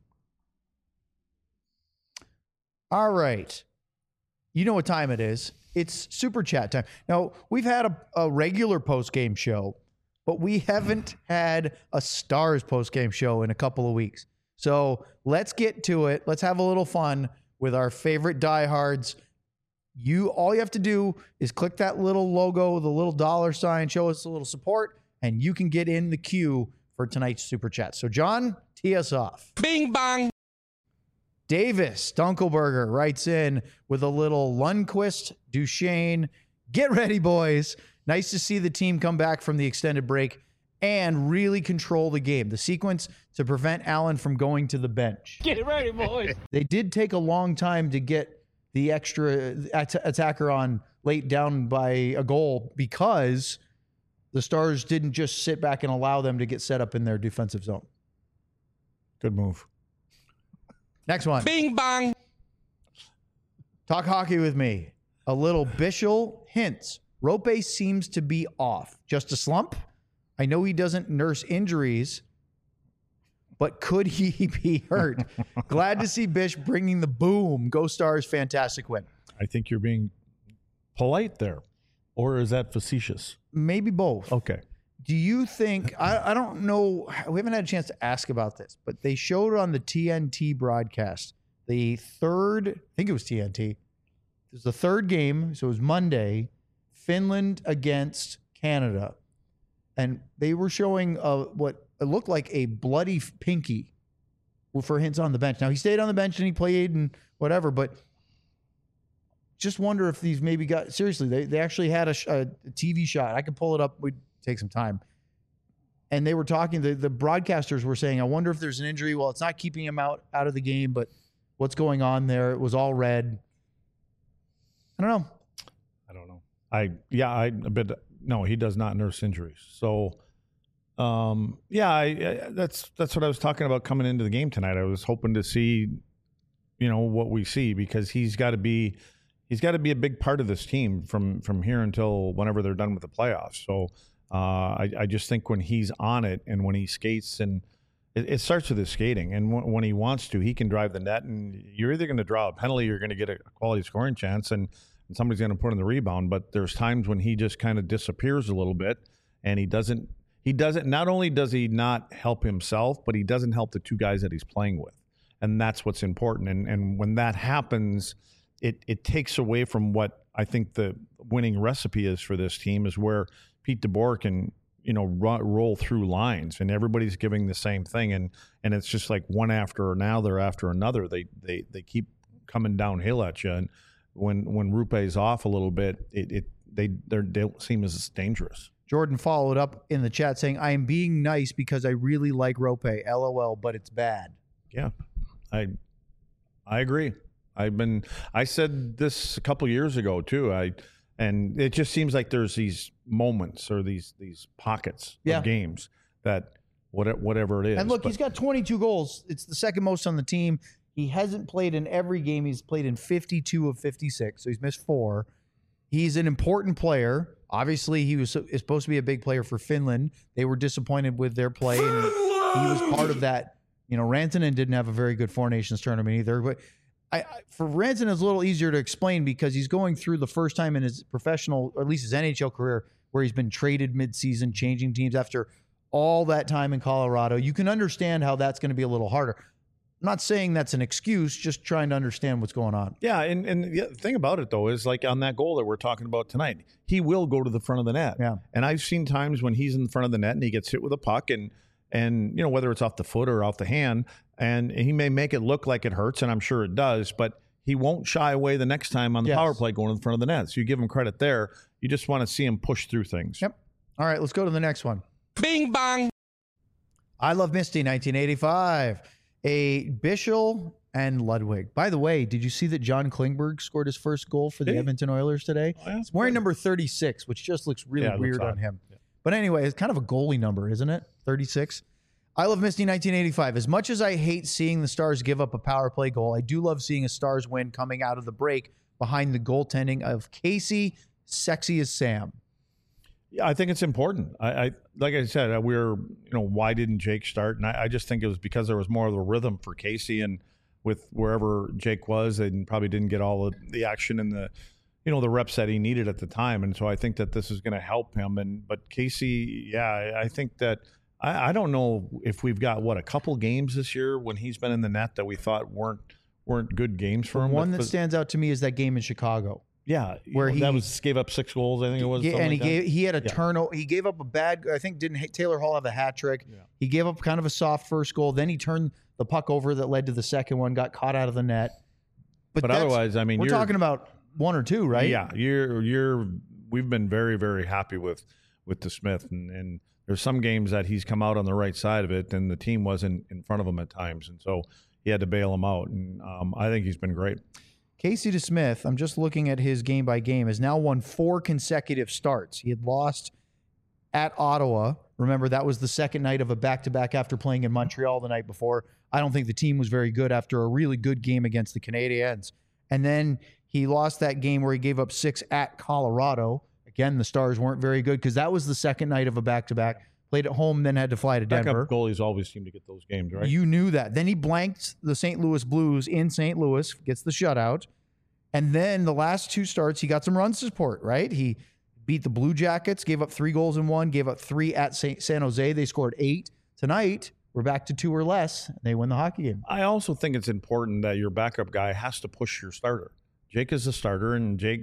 All right. You know what time it is. It's Super Chat time. Now, we've had a regular post-game show, but we haven't had a Stars post-game show in a couple of weeks. So let's get to it. Let's have a little fun with our favorite diehards. All you have to do is click that little logo, the little $, show us a little support, and you can get in the queue for tonight's Super Chat. So, John, tee us off. Bing bong. Davis Dunkelberger writes in with a little Lundqvist, Duchesne. Get ready, boys. Nice to see the team come back from the extended break and really control the game. The sequence to prevent Allen from going to the bench. Get ready, boys. They did take a long time to get the extra attacker on late down by a goal because the Stars didn't just sit back and allow them to get set up in their defensive zone. Good move. Next one. Bing bong. Talk hockey with me. A little Bischel hints. Rope seems to be off. Just a slump? I know he doesn't nurse injuries, but could he be hurt? Glad to see Bish bringing the boom. Go Stars, fantastic win. I think you're being polite there. Or is that facetious? Maybe both. Okay. Do you think, I don't know, we haven't had a chance to ask about this, but they showed on the TNT broadcast, the third, I think it was TNT. It was the third game, so it was Monday. Finland against Canada, and they were showing what it looked like a bloody pinky for Hintz on the bench. Now, he stayed on the bench and he played and whatever, but just wonder if these maybe got, seriously, they actually had a TV shot. I could pull it up. We'd take some time. And they were talking, the broadcasters were saying, I wonder if there's an injury. Well, it's not keeping him out of the game, but what's going on there? It was all red. I don't know. No, he does not nurse injuries. So, that's what I was talking about coming into the game tonight. I was hoping to see, what we see, because he's got to be a big part of this team from here until whenever they're done with the playoffs. So, I just think when he's on it and when he skates, and it starts with his skating, and when he wants to, he can drive the net, and you're either going to draw a penalty, you're going to get a quality scoring chance, and somebody's going to put in the rebound. But there's times when he just kind of disappears a little bit, and he doesn't, not only does he not help himself, but he doesn't help the two guys that he's playing with. And that's what's important. And when that happens, it takes away from what I think the winning recipe is for this team, is where Pete DeBoer can, roll through lines and everybody's giving the same thing. And it's just like one after another after another. They keep coming downhill at you. And when Rupe's off a little bit, they don't seem as dangerous. Jordan followed up in the chat saying, I am being nice because I really like Rope. LOL, but it's bad. Yeah, I agree. I said this a couple years ago too. And it just seems like there's these moments or these pockets of games that whatever it is. And look, he's got 22 goals. It's the second most on the team. He hasn't played in every game. He's played in 52 of 56, so he's missed 4. He's an important player. Obviously, is supposed to be a big player for Finland. They were disappointed with their play, and he was part of that. Rantanen didn't have a very good Four Nations tournament either. But for Rantanen, it's a little easier to explain because he's going through the first time in his professional, or at least his NHL career, where he's been traded midseason, changing teams after all that time in Colorado. You can understand how that's going to be a little harder. I'm not saying that's an excuse, just trying to understand what's going on. Yeah, and the thing about it, though, is like on that goal that we're talking about tonight, he will go to the front of the net. Yeah. And I've seen times when he's in the front of the net and he gets hit with a puck, and whether it's off the foot or off the hand, and he may make it look like it hurts, and I'm sure it does, but he won't shy away the next time on the power play going to the front of the net. So you give him credit there. You just want to see him push through things. Yep. All right, let's go to the next one. Bing bong. I Love Misty, 1985. A Bischel and Ludwig. By the way, did you see that John Klingberg scored his first goal for the Edmonton Oilers today? Oh, yeah. He's wearing number 36, which just looks really weird on him. Yeah. But anyway, it's kind of a goalie number, isn't it? 36. I Love Misty, 1985. As much as I hate seeing the Stars give up a power play goal, I do love seeing a Stars win coming out of the break behind the goaltending of Casey, sexy as Sam. Yeah, I think it's important. I like I said, why didn't Jake start? And I just think it was because there was more of a rhythm for Casey, and with wherever Jake was, and probably didn't get all the action and the reps that he needed at the time. And so I think that this is going to help him. But Casey, I think that I don't know if we've got a couple games this year when he's been in the net that we thought weren't good games for him. One that stands out to me is that game in Chicago. Yeah, where he gave up 6 goals. I think it was. Yeah, and he had a turnover. He gave up a bad. I think didn't Taylor Hall have a hat trick? Yeah. He gave up kind of a soft first goal. Then he turned the puck over that led to the second one. Got caught out of the net. But otherwise, I mean, we're talking about 1 or 2, right? Yeah, we've been very, very happy with DeSmith, and there's some games that he's come out on the right side of it, and the team wasn't in front of him at times, and so he had to bail him out. And I think he's been great. Casey DeSmith, I'm just looking at his game by game, has now won 4 consecutive starts. He had lost at Ottawa. Remember, that was the second night of a back-to-back after playing in Montreal the night before. I don't think the team was very good after a really good game against the Canadiens. And then he lost that game where he gave up 6 at Colorado. Again, the Stars weren't very good because that was the second night of a back-to-back. Played at home, then had to fly to Denver. Backup goalies always seem to get those games, right? You knew that. Then he blanked the St. Louis Blues in St. Louis, gets the shutout. And then the last 2 starts, he got some run support, right? He beat the Blue Jackets, gave up 3 goals in 1, gave up 3 at San Jose. They scored 8. Tonight, we're back to 2 or less. And they win the hockey game. I also think it's important that your backup guy has to push your starter. Jake is the starter, and Jake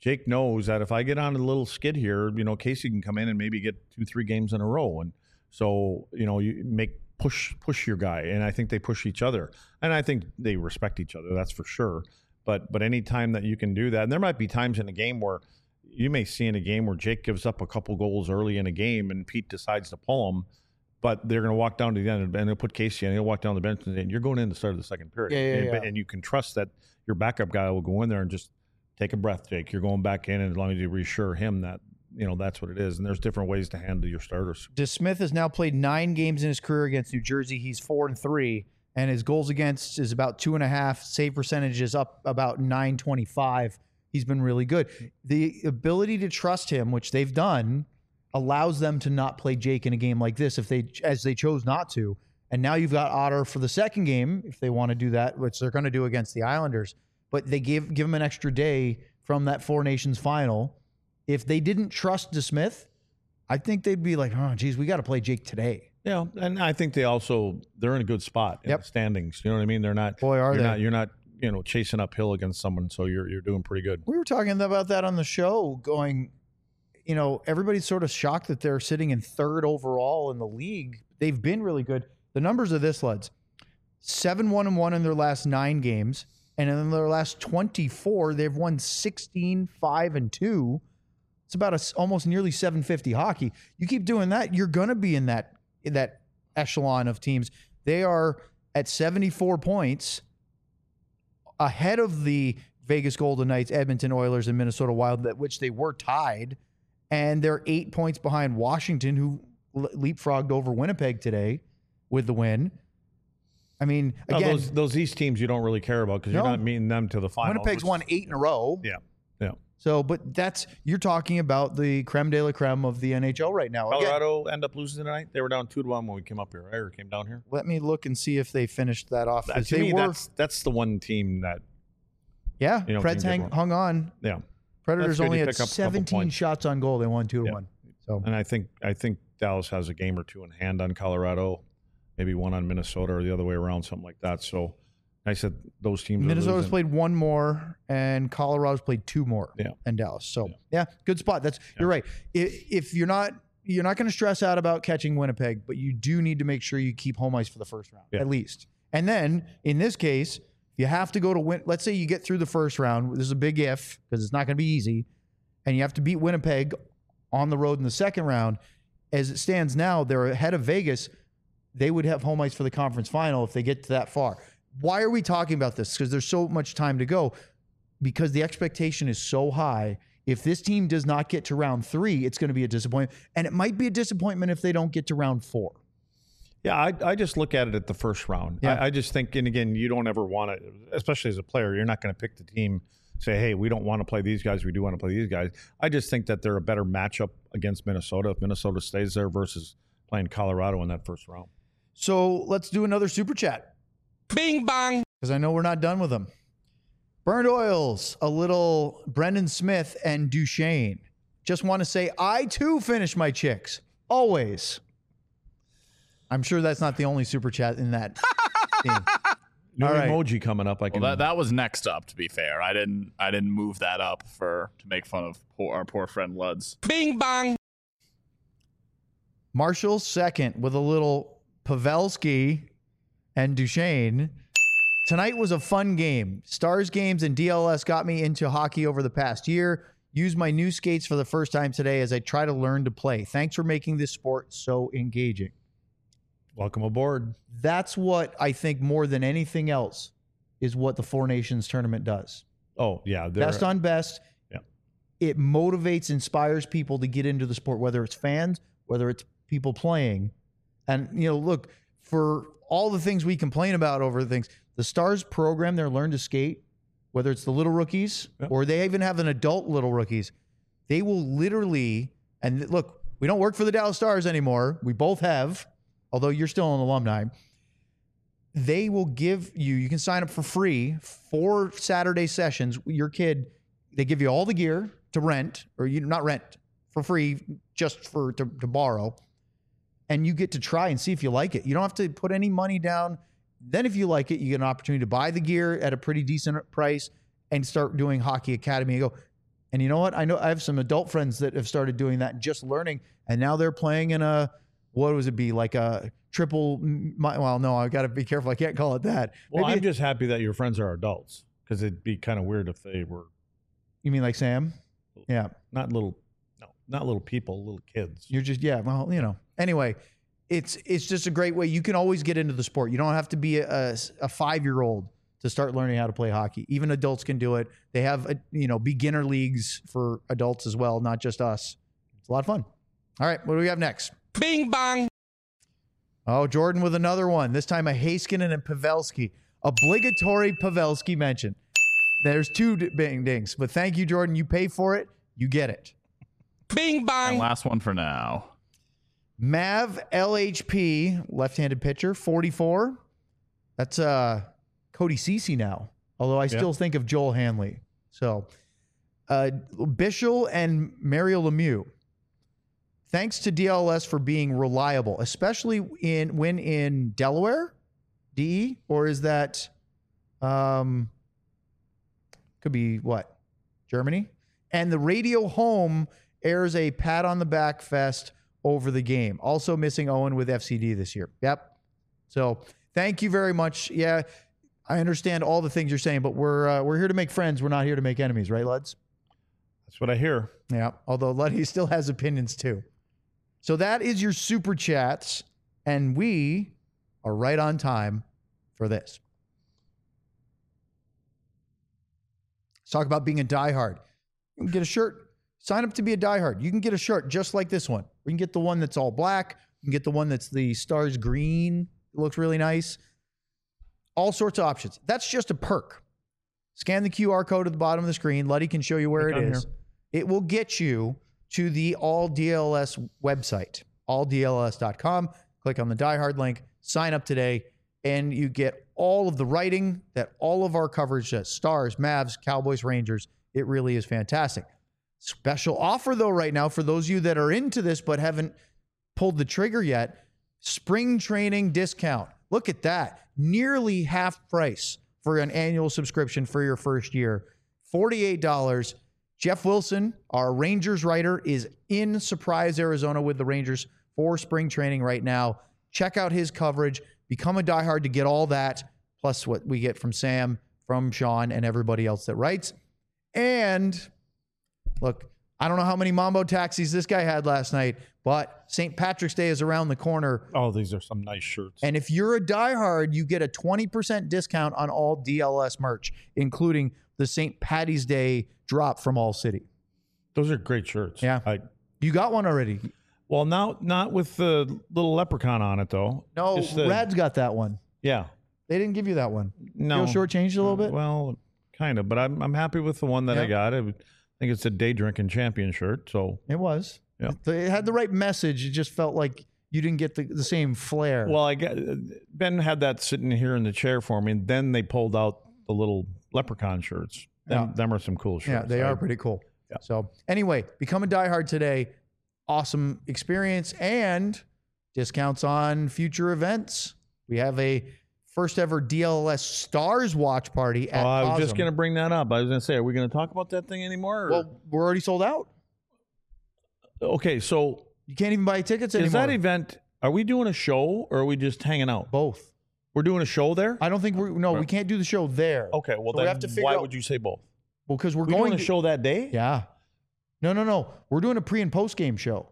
Jake knows that if I get on a little skid here, Casey can come in and maybe get 2-3 games in a row. And so, you push your guy. And I think they push each other. And I think they respect each other. That's for sure. But any time that you can do that, and there might be times in a game where you may see in a game where Jake gives up a couple goals early in a game and Pete decides to pull him, but they're going to walk down to the end and they'll put Casey and he'll walk down the bench and say, you're going in the start of the second period. Yeah. And you can trust that your backup guy will go in there and just take a breath, Jake. You're going back in, and as long as you reassure him that, that's what it is. And there's different ways to handle your starters. DeSmith has now played 9 games in his career against New Jersey. He's 4-3, and his goals against is about 2.5. Save percentage is up about 925. He's been really good. The ability to trust him, which they've done, allows them to not play Jake in a game like this as they chose not to. And now you've got Otter for the second game if they want to do that, which they're going to do against the Islanders. But they give him an extra day from that Four Nations final. If they didn't trust DeSmith, I think they'd be like, oh, geez, we got to play Jake today. Yeah, and I think they're in a good spot in the standings. You know what I mean? They're not. Boy, are they? You're not chasing uphill against someone, so you're doing pretty good. We were talking about that on the show, going, everybody's sort of shocked that they're sitting in 3rd overall in the league. They've been really good. The numbers are this, lads: 7-1-1 in their last 9 games. And in their last 24, they've won 16-5-2. It's about almost nearly 750 hockey. You keep doing that, you're going to be in that echelon of teams. They are at 74 points ahead of the Vegas Golden Knights, Edmonton Oilers, and Minnesota Wild, which they were tied. And they're 8 points behind Washington, who leapfrogged over Winnipeg today with the win. I mean, again, those East teams you don't really care about because you're not meeting them to the final. Winnipeg's won 8 in a row. Yeah. So, but you're talking about the creme de la creme of the NHL right now. Colorado end up losing tonight. They were down 2-1 when we came up here, right? Or came down here. Let me look and see if they finished that off. To me, that's the one team that. Yeah, Preds hung on. Yeah, Predators only had 17 shots on goal. They won 2-1. So, and I think Dallas has a game or 2 in hand on Colorado. Maybe one on Minnesota or the other way around, something like that. So I said those teams. Minnesota's played 1 more, and Colorado's played 2 more. Yeah. And Dallas. So good spot. You're right. If you're not going to stress out about catching Winnipeg, but you do need to make sure you keep home ice for the first round at least. And then in this case, you have to go to win. Let's say you get through the first round. This is a big if because it's not going to be easy, and you have to beat Winnipeg on the road in the second round. As it stands now, they're ahead of Vegas. They would have home ice for the conference final if they get to that far. Why are we talking about this? Because there's so much time to go. Because the expectation is so high. If this team does not get to round 3, it's going to be a disappointment. And it might be a disappointment if they don't get to round 4. Yeah, I just look at it at the first round. Yeah. I just think, and again, you don't ever want to, especially as a player, you're not going to pick the team, say, hey, we don't want to play these guys, we do want to play these guys. I just think that they're a better matchup against Minnesota if Minnesota stays there versus playing Colorado in that first round. So let's do another super chat. Bing bong. Because I know we're not done with them. Burned Oils, a little Brendan Smith and Duchesne. Just want to say, I too finish my chicks. Always. I'm sure that's not the only super chat in that theme. New emoji coming up. That was next up, to be fair. I didn't move that up to make fun of our poor friend Luds. Bing bong. Marshall second with a little Pavelski and Duchesne. Tonight was a fun game. Stars games and DLS got me into hockey over the past year. Used my new skates for the first time today as I try to learn to play. Thanks for making this sport so engaging. Welcome aboard. That's what I think more than anything else is what the Four Nations tournament does. Oh, yeah. Best on best. Yeah. It motivates, inspires people to get into the sport, whether it's fans, whether it's people playing. And, look, for all the things we complain about over things, the Stars program their Learn to Skate, whether it's the little rookies or they even have an adult little rookies, they will literally, and look, we don't work for the Dallas Stars anymore. We both have, although you're still an alumni. They will give you can sign up for free 4 Saturday sessions. Your kid, they give you all the gear to rent, or not rent, for free, just to borrow. And you get to try and see if you like it. You don't have to put any money down. Then if you like it, you get an opportunity to buy the gear at a pretty decent price and start doing Hockey Academy. And you know what? I know I have some adult friends that have started doing that and just learning. And now they're playing in a, what was it be? Like a triple, well, no, I got to be careful. I can't call it that. Well, Maybe I'm just happy that your friends are adults because it'd be kind of weird if they were you mean like Sam? Yeah. not little people, little kids. You're just, yeah. Well, anyway, it's just a great way. You can always get into the sport. You don't have to be a 5-year-old to start learning how to play hockey. Even adults can do it. They have, beginner leagues for adults as well, not just us. It's a lot of fun. All right. What do we have next? Bing bong. Oh, Jordan with another one. This time a Heiskanen and Pavelski. Obligatory Pavelski mention. There's 2 bing dings, but thank you, Jordan. You pay for it. You get it. Bing And bong. last one for now. Mav LHP, left-handed pitcher, 44. That's Cody Ceci now, although I still think of Joel Hanley. So Bischel and Mario Lemieux. Thanks to DLS for being reliable, especially when in Delaware, DE, or is that could be what? Germany? And the Radio Home airs a pat on the back fest over the game. Also missing Owen with FCD this year. Yep. So thank you very much. Yeah, I understand all the things you're saying, but we're here to make friends. We're not here to make enemies, right, Luds? That's what I hear. Yeah. Although Luddy still has opinions too. So that is your super chats, and we are right on time for this. Let's talk about being a diehard. You can get a shirt. Sign up to be a diehard. You can get a shirt just like this one. We can get the one that's all black. You can get the one that's the stars green. It looks really nice. All sorts of options. That's just a perk. Scan the QR code at the bottom of the screen. Luddy can show you where it is. It will get you to the All DLS website, alldls.com. Click on the diehard link. Sign up today, and you get all of the writing that all of our coverage does. Stars, Mavs, Cowboys, Rangers. It really is fantastic. Special offer, though, right now for those of you that are into this but haven't pulled the trigger yet. Spring training discount. Look at that. Nearly half price for an annual subscription for your first year. $48. Jeff Wilson, our Rangers writer, is in Surprise, Arizona with the Rangers for spring training right now. Check out his coverage. Become a diehard to get all that, plus what we get from Sam, from Sean, and everybody else that writes. And look, I don't know how many Mambo taxis this guy had last night, but St. Patrick's Day is around the corner. Oh, these are some nice shirts. And if you're a diehard, you get a 20% discount on all DLS merch, including the St. Patty's Day drop from All City. Those are great shirts. Yeah. You got one already. Well, now not with the little leprechaun on it, though. No, Just the- Rad's got that one. Yeah. They didn't give you that one. No. Feel shortchanged a little bit? Well, kind of, but I'm happy with the one that I Yeah. got. I think it's a day drinking champion shirt. So It was. Yeah. It had the right message. It just felt like you didn't get the same flair. well, Ben had that sitting here in the chair for me, and then they pulled out the little leprechaun shirts. Them are some cool shirts. yeah, they are pretty cool. Yeah. So anyway, become a diehard today. Awesome experience and discounts on future events. We have a first ever DLS Stars watch party at I was just Cosm. going to bring that up. I was going to say, are we going to talk about that thing anymore? Or? Well, we're already sold out. Okay, so You can't even buy tickets anymore. is that event, are we doing a show or are we just hanging out? Both. We're doing a show there? I don't think we can't do the show there. Okay, well So we then have to figure why out- would you say both? Well, because we're We going doing a to show that day? Yeah. No. We're doing a pre and post game show.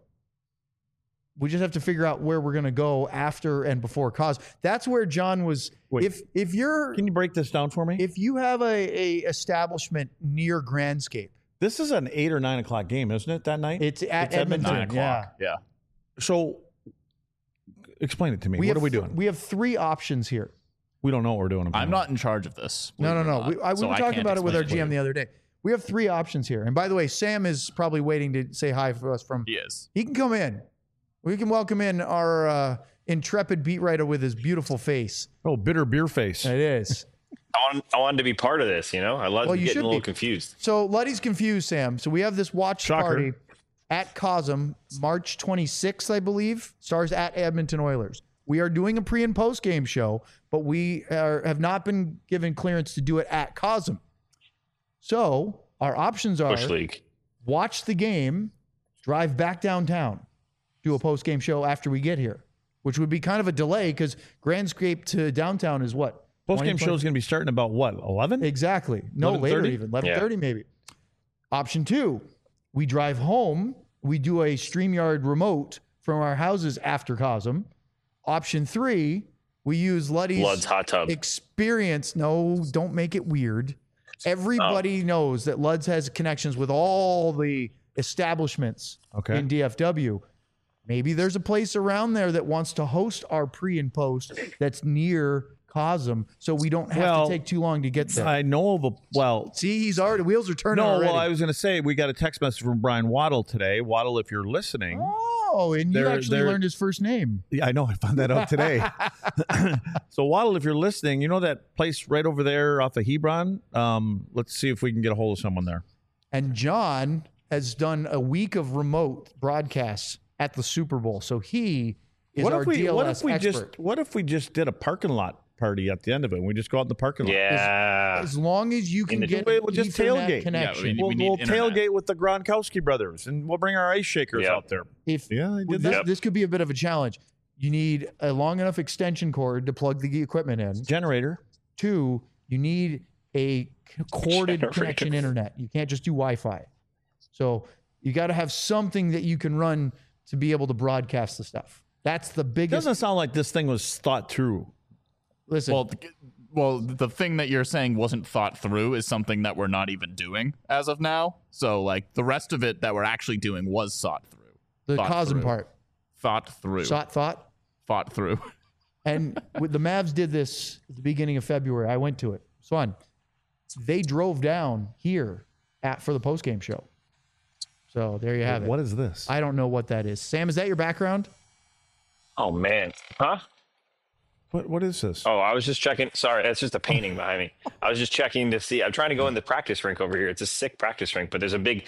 We just have to figure out where we're going to go after and before cause. That's where John was. Wait. If you're Can you break this down for me? if you have a establishment near Grandscape, This is an 8 or 9 o'clock game, isn't it, that night? it's at It's Edmonton. Edmonton. 9 Yeah. o'clock. Yeah. So explain it to me. What have are we doing? We have 3 options here. We don't know what we're doing. I'm not in charge of this. No. believe it or not, We so were I talking can't about it with our explain GM the other day. We have 3 options here. And by the way, Sam is probably waiting to say hi for us from. He is. He can come in. We can welcome in our intrepid beat writer with his beautiful face. Oh, bitter beer face. It is. I wanted to be part of this, I love Well, you getting should a little be. confused. So Luddy's confused, Sam. So we have this watch Shocker. party at Cosm, March 26th, I believe. Stars at Edmonton Oilers. We are doing a pre and post game show, but we have not been given clearance to do it at Cosm. So our options are Bush League. watch the game, drive back downtown, do a post-game show after we get here, which would be kind of a delay because Grandscape to downtown is what? Post-game show is going to be starting about what, 11? Exactly. No, later 11:30? even. 11:30 maybe. Option 2, we drive home. We do a StreamYard remote from our houses after Cosm. Option 3, we use Lud's hot tub. experience. No, don't make it weird. Everybody knows that Luds has connections with all the establishments Okay. in DFW. Maybe there's a place around there that wants to host our pre and post that's near Cosm, so we don't have to take too long to get there. I know of a, well, See, he's already, wheels are turning no, already. well, I was going to say, we got a text message from Brian Waddle today. Waddle, if you're listening. Oh, and you They're- actually they're- learned his first name. Yeah, I know. I found that out today. So, Waddle, if you're listening, you know that place right over there off of Hebron? Let's see if we can get a hold of someone there. And John has done a week of remote broadcasts at the Super Bowl, so he is our DLS expert. What if we just did a parking lot party at the end of it? We just go out in the parking lot. Yeah. As long as you can get We'll just Ethernet tailgate. connection. Yeah, We'll, need we'll internet. tailgate with the Gronkowski brothers, and we'll bring our ice shakers Yep. out there. If Yeah, I did this, that. this could be a bit of a challenge. You need a long enough extension cord to plug the equipment in. Generator. 2, you need a corded Generator. connection internet. You can't just do Wi-Fi. So you got to have something that you can run to be able to broadcast the stuff. That's the biggest. Doesn't sound like this thing was thought through. Listen, Well, the thing that you're saying wasn't thought through is something that we're not even doing as of now. So, like, the rest of it that we're actually doing was thought through. the thought Cosm through. part. Thought through. Thought through. And with the Mavs did this at the beginning of February. I went to it. It's fun. They drove down here for the postgame show. So there you have it. What is this? I don't know what that is. Sam, is that your background? Oh man. Huh? What is this? Oh, I was just checking. Sorry, that's just a painting behind me. I was just checking to see. I'm trying to go in the practice rink over here. It's a sick practice rink, but there's a big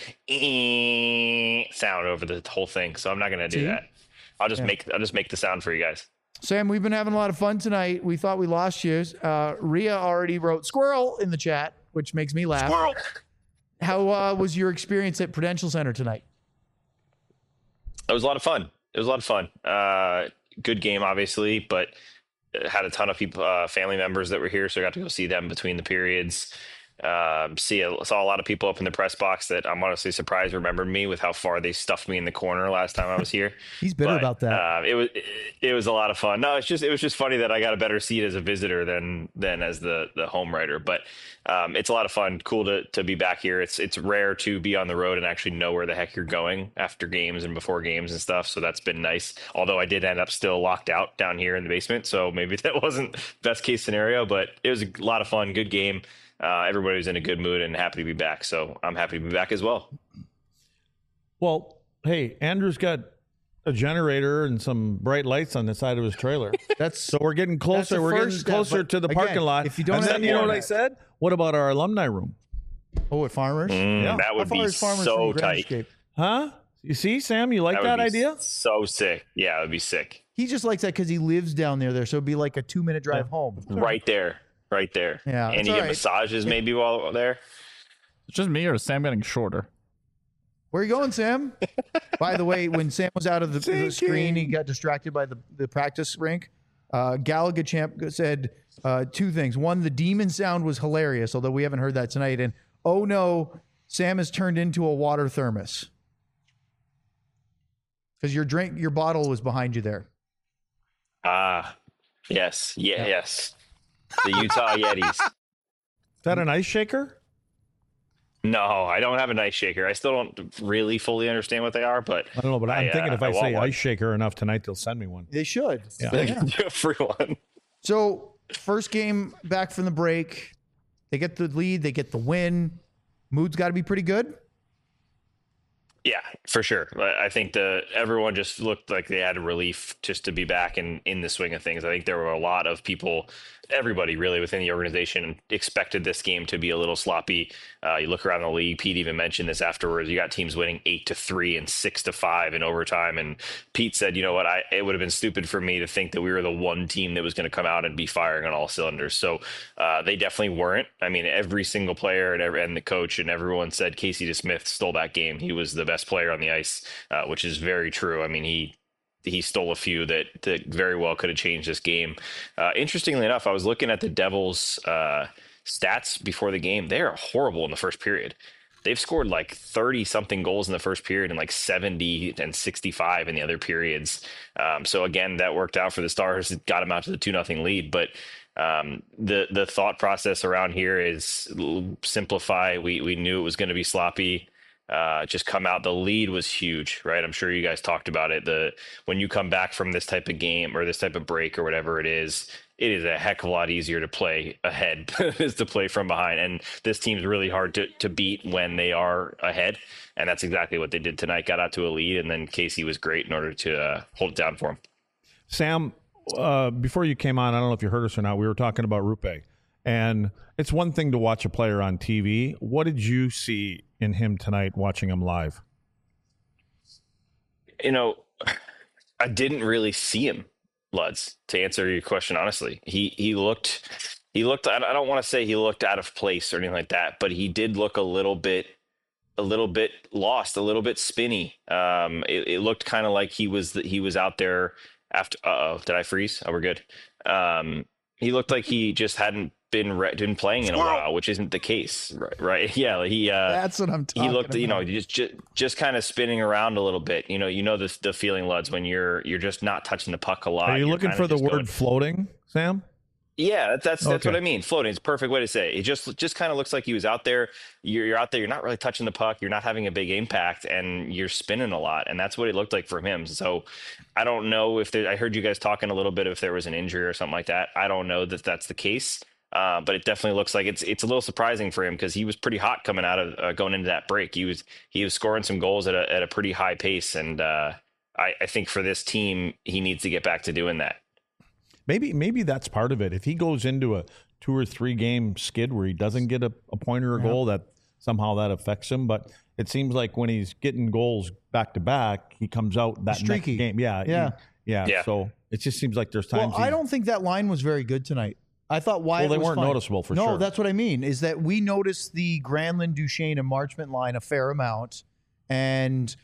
sound over the whole thing. So I'm not gonna do See? that. I'll just make the sound for you guys. Sam, we've been having a lot of fun tonight. We thought we lost you. Rhea already wrote squirrel in the chat, which makes me laugh. Squirrel. How was your experience at Prudential Center tonight? It was a lot of fun. Good game, obviously, but had a ton of people, family members that were here, so I got to go see them between the periods. Saw a lot of people up in the press box that I'm honestly surprised remembered me with how far they stuffed me in the corner last time I was here. He's bitter But, about that. it was a lot of fun. No, it was just funny that I got a better seat as a visitor than as the home writer. But it's a lot of fun. Cool to be back here. It's rare to be on the road and actually know where the heck you're going after games and before games and stuff. So that's been nice. Although I did end up still locked out down here in the basement, so maybe that wasn't best case scenario. But it was a lot of fun. Good game. Everybody was in a good mood and happy to be back. So I'm happy to be back as well. Well, hey, Andrew's got a generator and some bright lights on the side of his trailer. So we're getting closer. the We're first getting step, closer but to the again, parking lot. if you don't and have then, you know what I that- said? What about our alumni room? Oh, at Farmers? Yeah. That would How far be is Farmers so from tight. Grandscape? Huh? You see, Sam, you like would that be idea? So sick. Yeah, it would be sick. He just likes that because he lives down there, so it'd be like a 2-minute drive home. Right there. Yeah, And it's you all get right. massages maybe while there. It's just me or is Sam getting shorter? Where are you going, Sam? By the way, when Sam was out of the screen, he got distracted by the practice rink. Galaga Champ said 2 things. One, the demon sound was hilarious, although we haven't heard that tonight. And oh no, Sam has turned into a water thermos because your bottle was behind you there. Yes. Yes. The Utah Yetis. Is that an ice shaker? No, I don't have an ice shaker. I still don't really fully understand what they are, but I don't know, but I'm thinking if I want say one. ice shaker enough tonight, they'll send me one. They should. Yeah. They can do a free one. So first game back from the break, they get the lead, they get the win. Mood's got to be pretty good. Yeah, for sure. I think everyone just looked like they had a relief just to be back in the swing of things. I think there were a lot of people, everybody really within the organization expected this game to be a little sloppy. You look around the league, Pete even mentioned this afterwards. You got teams winning 8-3 and 6-5 in overtime. And Pete said, you know what, it would have been stupid for me to think that we were the one team that was going to come out and be firing on all cylinders. So they definitely weren't. I mean, every single player and the coach and everyone said Casey DeSmith stole that game. He was the best player on the ice, which is very true. I mean, he stole a few that very well could have changed this game. Interestingly enough, I was looking at the Devils' stats before the game. They are horrible in the first period. They've scored like 30-something goals in the first period and like 70 and 65 in the other periods. So again, that worked out for the Stars. It got them out to the 2-0 lead. But the thought process around here is simplify. We knew it was going to be sloppy. Just come out. The lead was huge, right? I'm sure you guys talked about it. When you come back from this type of game or this type of break or whatever it is a heck of a lot easier to play ahead than it is to play from behind. And this team's really hard to beat when they are ahead. And that's exactly what they did tonight. Got out to a lead, and then Casey was great in order to hold it down for him. Sam, before you came on, I don't know if you heard us or not, we were talking about Rupe. And it's one thing to watch a player on TV. What did you see in him tonight watching him live? You know, I didn't really see him, Luds, to answer your question honestly. He looked I don't want to say he looked out of place or anything like that, but he did look a little bit lost, a little bit spinny. It looked kind of like he was out there after did I freeze? Oh, we're good. He looked like he just hadn't been playing in a while, which isn't the case, right? Yeah, That's what I'm talking about. He looked, just kind of spinning around a little bit. The feeling, Luds, when you're just not touching the puck a lot. Are you looking for the word floating, Sam? Yeah, that's what I mean. Floating is a perfect way to say it. It just kind of looks like he was out there. You're out there. You're not really touching the puck. You're not having a big impact, and you're spinning a lot. And that's what it looked like for him. So I don't know if I heard you guys talking a little bit if there was an injury or something like that. I don't know that that's the case. But it definitely looks like it's a little surprising for him because he was pretty hot coming out of going into that break. He was scoring some goals at a pretty high pace, and I think for this team he needs to get back to doing that. Maybe that's part of it. If he goes into a 2 or 3 game skid where he doesn't get a point or a goal, that somehow that affects him. But it seems like when he's getting goals back to back, he comes out that next game. Yeah. So it just seems like there's times. Well, I don't think that line was very good tonight. I thought Wyatt they was weren't fine. noticeable for sure. No, that's what I mean, is that we noticed the Granlund, Duchesne, and Marchment line a fair amount. And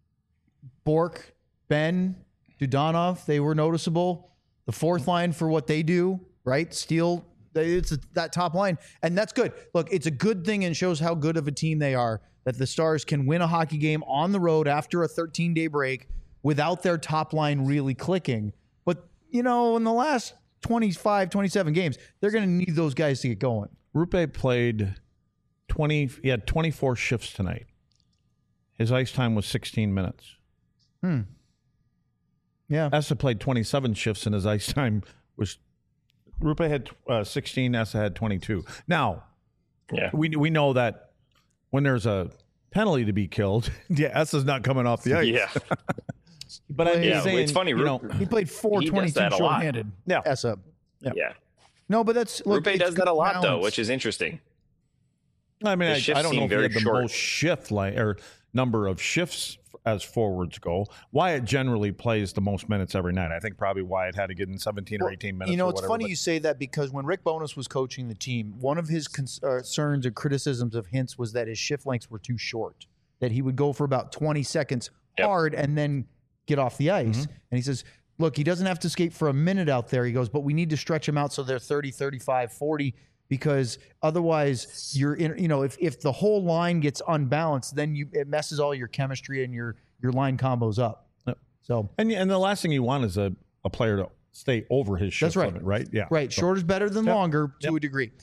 Bork, Ben, Dudanov, they were noticeable. The fourth line for what they do, right? Steele, it's that top line. And that's good. Look, it's a good thing and shows how good of a team they are that the Stars can win a hockey game on the road after a 13-day break without their top line really clicking. But, in the last 25, 27 games, they're going to need those guys to get going. Rupe played he had 24 shifts tonight. His ice time was 16 minutes. Yeah. Essa played 27 shifts and his ice time was Rupe had 16, Essa had 22. Now, we know that when there's a penalty to be killed, Essa's not coming off the ice. Yeah. But I'm saying, it's funny. He played 4:22 shorthanded. Yeah. Essa. Yeah. No, but that's Rupe does that a lot though, which is interesting. I mean, I don't know if he had the short. most shift or number of shifts as forwards go. Wyatt generally plays the most minutes every night. I think probably Wyatt had to get in 17 or 18 minutes. It's funny you say that because when Rick Bowness was coaching the team, one of his concerns or criticisms of Hintz was that his shift lengths were too short, that he would go for about 20 seconds hard and then get off the ice. And he says, look, he doesn't have to skate for a minute out there. He goes, but we need to stretch him out so they're 30, 35, 40, because otherwise you're in, if the whole line gets unbalanced, then it messes all your chemistry and your line combos up. Yep. So and the last thing you want is a player to stay over his shift limit, right? Yeah. Right. So, shorter is better than longer to a degree.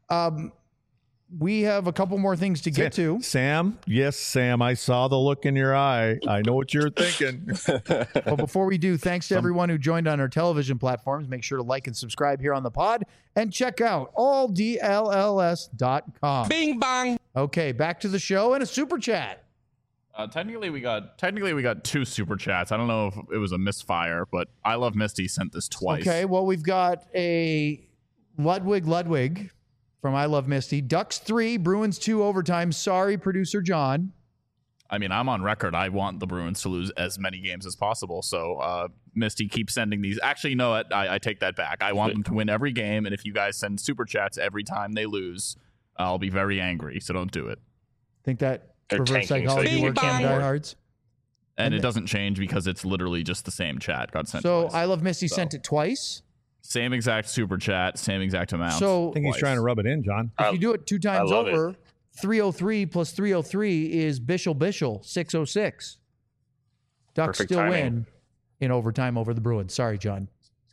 We have a couple more things to get to. Sam, yes, Sam, I saw the look in your eye. I know what you're thinking. But before we do, thanks to everyone who joined on our television platforms. Make sure to like and subscribe here on the pod and check out alldlls.com. Bing bang. Okay, back to the show and a super chat. Technically, we got two super chats. I don't know if it was a misfire, but I Love Misty sent this twice. Okay, well, we've got a Ludwig from I Love Misty. Ducks 3, Bruins 2 overtime. Sorry, producer John. I mean, I'm on record. I want the Bruins to lose as many games as possible. So, Misty, keep sending these. Actually, you know what? I take that back. I want them to win every game, and if you guys send super chats every time they lose, I'll be very angry. So don't do it. Think that They're reverse tanking, so psychology you works can on get more. diehards. And it doesn't change because it's literally just the same chat got sent So twice. I Love Misty sent it twice. Same exact super chat, same exact amount. So I think he's Twice. trying to rub it in, John. if you do it 2 times love over, 303 plus 303 is Bishel 606. Ducks Perfect still timing. win in overtime over the Bruins. Sorry, John.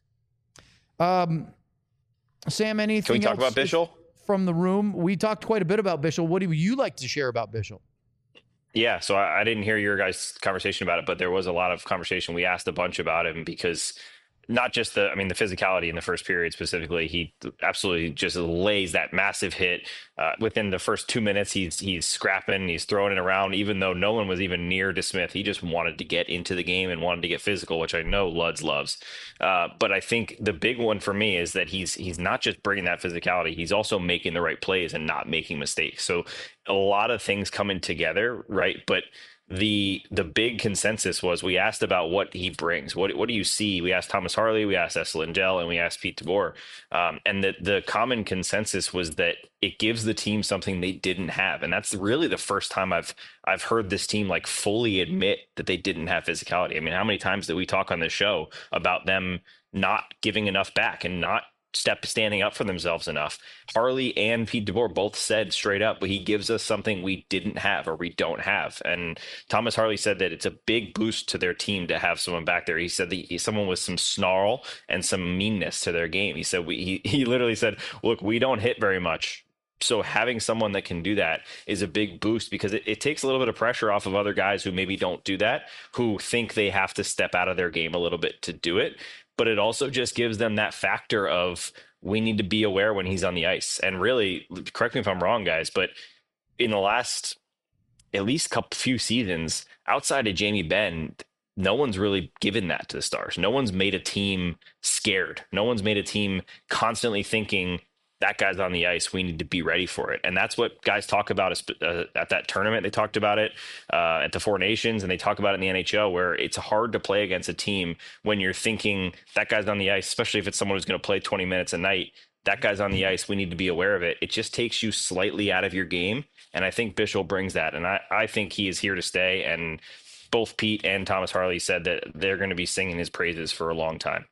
Sam, anything Can we talk else about Bishel? from the room? We talked quite a bit about Bishel. What do you like to share about Bishel? Yeah, so I didn't hear your guys' conversation about it, but there was a lot of conversation. We asked a bunch about him because not just the physicality in the first period specifically. He absolutely just lays that massive hit. Within the first 2 minutes, he's scrapping, he's throwing it around, even though no one was even near DeSmith. He just wanted to get into the game and wanted to get physical, which I know Luds loves. But I think the big one for me is that he's not just bringing that physicality, he's also making the right plays and not making mistakes. So a lot of things coming together, right? But the big consensus was we asked about what he brings. What do you see? We asked Thomas Harley, we asked Essa Lindell, and we asked Pete DeBoer. And the common consensus was that it gives the team something they didn't have. And that's really the first time I've heard this team like fully admit that they didn't have physicality. I mean, how many times did we talk on this show about them not giving enough back and not standing up for themselves enough? Harley and Pete DeBoer both said straight up, but he gives us something we didn't have or we don't have. And Thomas Harley said that it's a big boost to their team to have someone back there. He said that someone with some snarl and some meanness to their game. He said he literally said, look, we don't hit very much. So having someone that can do that is a big boost because it takes a little bit of pressure off of other guys who maybe don't do that, who think they have to step out of their game a little bit to do it. But it also just gives them that factor of we need to be aware when he's on the ice. And really, correct me if I'm wrong, guys, but in the last at least few seasons, outside of Jamie Benn, no one's really given that to the Stars. No one's made a team scared. No one's made a team constantly thinking that guy's on the ice, we need to be ready for it. And that's what guys talk about at that tournament. They talked about it at the Four Nations, and they talk about it in the NHL, where it's hard to play against a team when you're thinking that guy's on the ice, especially if it's someone who's going to play 20 minutes a night. That guy's on the ice. We need to be aware of it. It just takes you slightly out of your game. And I think Bishel brings that. And I think he is here to stay. And both Pete and Thomas Harley said that they're going to be singing his praises for a long time.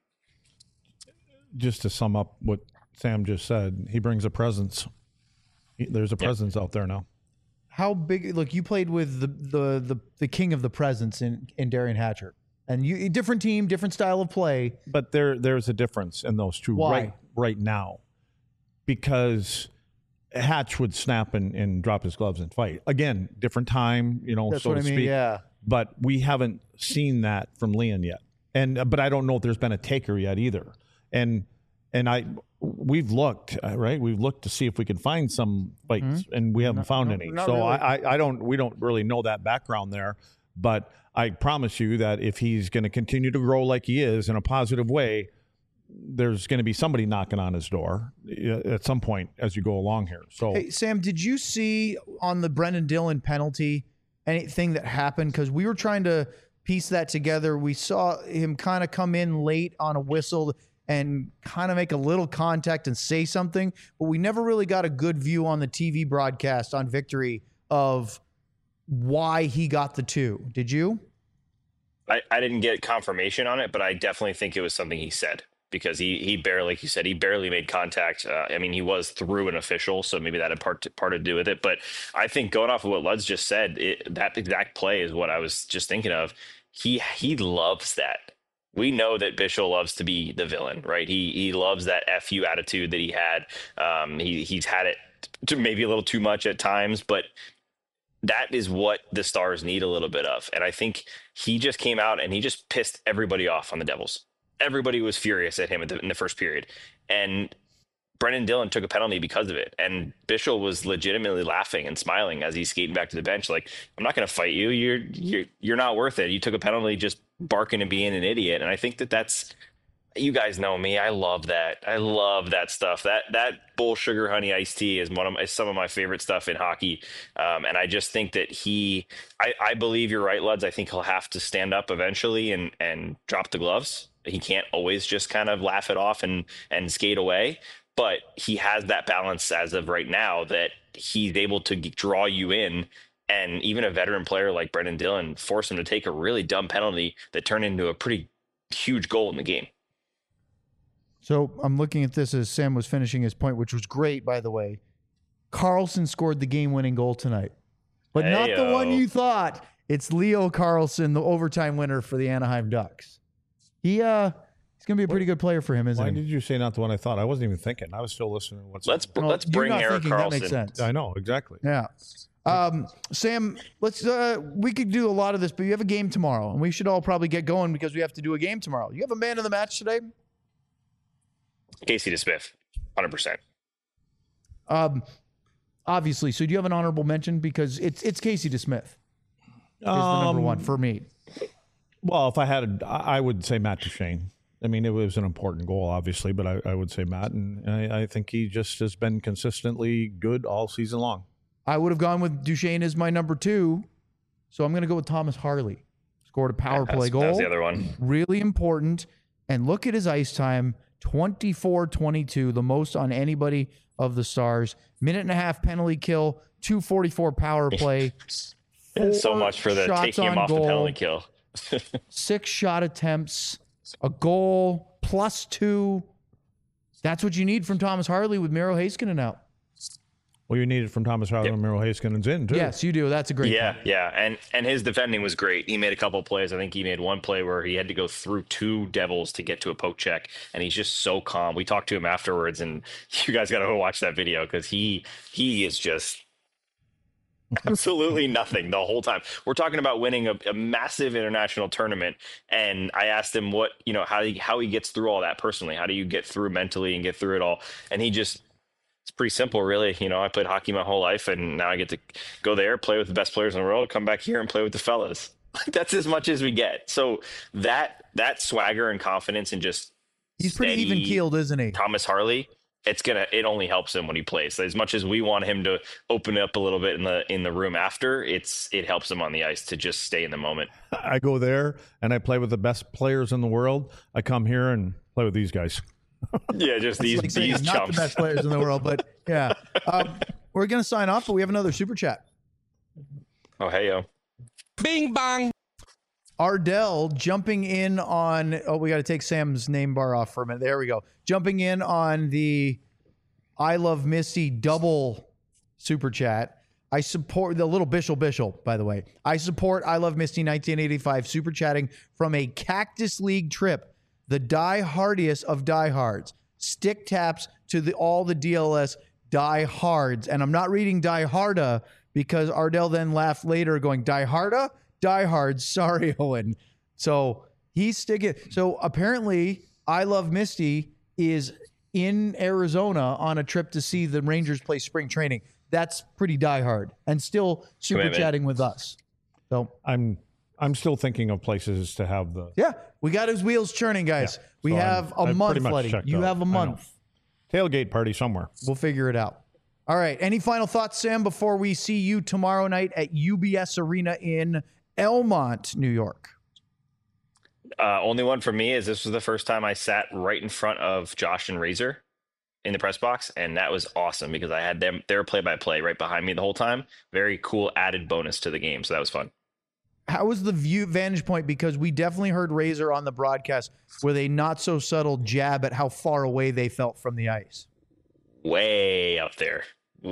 Just to sum up what Sam just said, he brings a presence. There's a presence out there now. How big? Look, you played with the king of the presence in Darian Hatcher, and you different team, different style of play. But there's a difference in those two Why? right now, because Hatch would snap and drop his gloves and fight. Again, different time, That's so what to I mean. speak. Yeah. But we haven't seen that from Leon yet, but I don't know if there's been a taker yet either. And we've looked, right? We've looked to see if we can find some fights, and we haven't found any. not So really. we don't really know that background there. But I promise you that if he's going to continue to grow like he is in a positive way, there's going to be somebody knocking on his door at some point as you go along here. So, Hey, Sam, did you see on the Brendan Dillon penalty anything that happened? Because we were trying to piece that together. We saw him kind of come in late on a whistle and kind of make a little contact and say something, but we never really got a good view on the TV broadcast on Victory of why he got the 2. Did you? I didn't get confirmation on it, but I definitely think it was something he said, because he barely, like you said, he barely made contact. I mean, he was through an official, so maybe that had part to do with it. But I think going off of what Luds just said, that exact play is what I was just thinking of. He loves that. We know that Bishel loves to be the villain, right? He loves that FU attitude that he had. He's had it maybe a little too much at times, but that is what the Stars need a little bit of. And I think he just came out and he just pissed everybody off on the Devils. Everybody was furious at him in the first period. And Brendan Dillon took a penalty because of it, and Bischel was legitimately laughing and smiling as he's skating back to the bench. Like, I'm not going to fight you. You're not worth it. You took a penalty just barking and being an idiot. And I think that's, you guys know me. I love that. I love that stuff. That Bull Sugar Honey iced tea is some of my favorite stuff in hockey. And I just think that I believe you're right, Luds. I think he'll have to stand up eventually and drop the gloves. He can't always just kind of laugh it off and skate away. But he has that balance as of right now that he's able to draw you in, and even a veteran player like Brendan Dillon force him to take a really dumb penalty that turned into a pretty huge goal in the game. So I'm looking at this as Sam was finishing his point, which was great, by the way. Carlson scored the game-winning goal tonight, but not the one you thought. It's Leo Carlson, the overtime winner for the Anaheim Ducks. He's going to be a pretty good player for him, isn't Why he? did you say not the one I thought? I wasn't even thinking. I was still listening. Let's bring Erik Karlsson. That makes sense. I know, exactly. Yeah. Sam, we could do a lot of this, but you have a game tomorrow, and we should all probably get going because we have to do a game tomorrow. You have a man of the match today? Casey DeSmith, 100%. Obviously. So do you have an honorable mention? Because it's Casey DeSmith is the number one for me. Well, if I had, I would say Matt Duchene. I mean, it was an important goal, obviously, but I would say Matt, and I think he just has been consistently good all season long. I would have gone with Duchene as my number 2, so I'm going to go with Thomas Harley. Scored a power play goal. That's the other one. Really important. And look at his ice time, 24-22, the most on anybody of the Stars. Minute and a half penalty kill, 2:44 power play. So much for the taking him off the penalty kill. 6 shot attempts, a goal, +2. That's what you need from Thomas Harley with Miro Heiskanen out. Well, you need it from Thomas Harley and Miro Heiskanen's in, too. Yes, you do. That's a great point. Yeah. And his defending was great. He made a couple of plays. I think he made one play where he had to go through 2 Devils to get to a poke check, and he's just so calm. We talked to him afterwards, and you guys got to go watch that video because he is just absolutely nothing the whole time. We're talking about winning a massive international tournament, and I asked him how he gets through all that personally. How do you get through mentally and get through it all? And it's pretty simple, really. I played hockey my whole life, and now I get to go there, play with the best players in the world, come back here and play with the fellas. That's as much as we get. So that swagger and confidence and just he's pretty even keeled, isn't he? Thomas Harley, it only helps him when he plays. As much as we want him to open up a little bit in the room after, it helps him on the ice to just stay in the moment. I go there and I play with the best players in the world. I come here and play with these guys. Yeah, just these chumps. Not the best players in the world, but yeah. We're going to sign off, but we have another super chat. Oh, hey, yo. Bing bang. Ardell jumping in on, we got to take Sam's name bar off for a minute. There we go. Jumping in on the I Love Misty double super chat. I support the little Bischel, by the way. I support I Love Misty 1985 super chatting from a Cactus League trip. The die-hardiest of diehards. Stick taps to all the DLS diehards. And I'm not reading die-harda because Ardell then laughed later going, die-harda? Diehards. Sorry, Owen. So he's sticking. So apparently I Love Misty is in Arizona on a trip to see the Rangers play spring training. That's pretty diehard and still super chatting with us. So I'm still thinking of places to have the... Yeah, we got his wheels churning, guys. Yeah. We have a month, Letty. You out. have a month. Tailgate party somewhere. We'll figure it out. All right. Any final thoughts, Sam, before we see you tomorrow night at UBS Arena in Elmont, New York? Only one for me is this was the first time I sat right in front of Josh and Razor in the press box, and that was awesome because I had them. They were play-by-play right behind me the whole time. Very cool added bonus to the game, so that was fun. How was the vantage point? Because we definitely heard Razor on the broadcast with a not so subtle jab at how far away they felt from the ice. Way up there.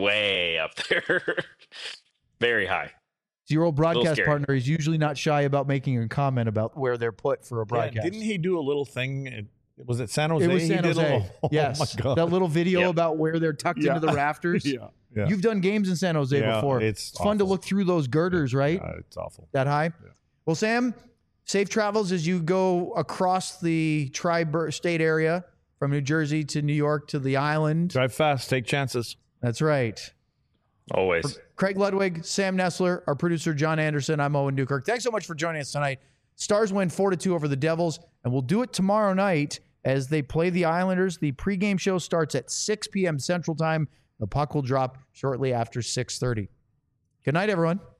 Very high. Your old broadcast partner is usually not shy about making a comment about where they're put for a broadcast. Yeah, didn't he do a little thing? Was it San Jose? It was San Jose. Yes. Oh my God. That little video about where they're tucked into the rafters. Yeah. You've done games in San Jose before. It's fun to look through those girders, right? It's awful. That high? Yeah. Well, Sam, safe travels as you go across the tri-state area from New Jersey to New York to the island. Drive fast, take chances. That's right. Always. Craig Ludwig, Sam Nestler, our producer, John Anderson. I'm Owen Newkirk. Thanks so much for joining us tonight. Stars win 4-2 over the Devils, and we'll do it tomorrow night as they play the Islanders. The pregame show starts at 6 p.m. Central Time. The puck will drop shortly after 6:30. Good night, everyone.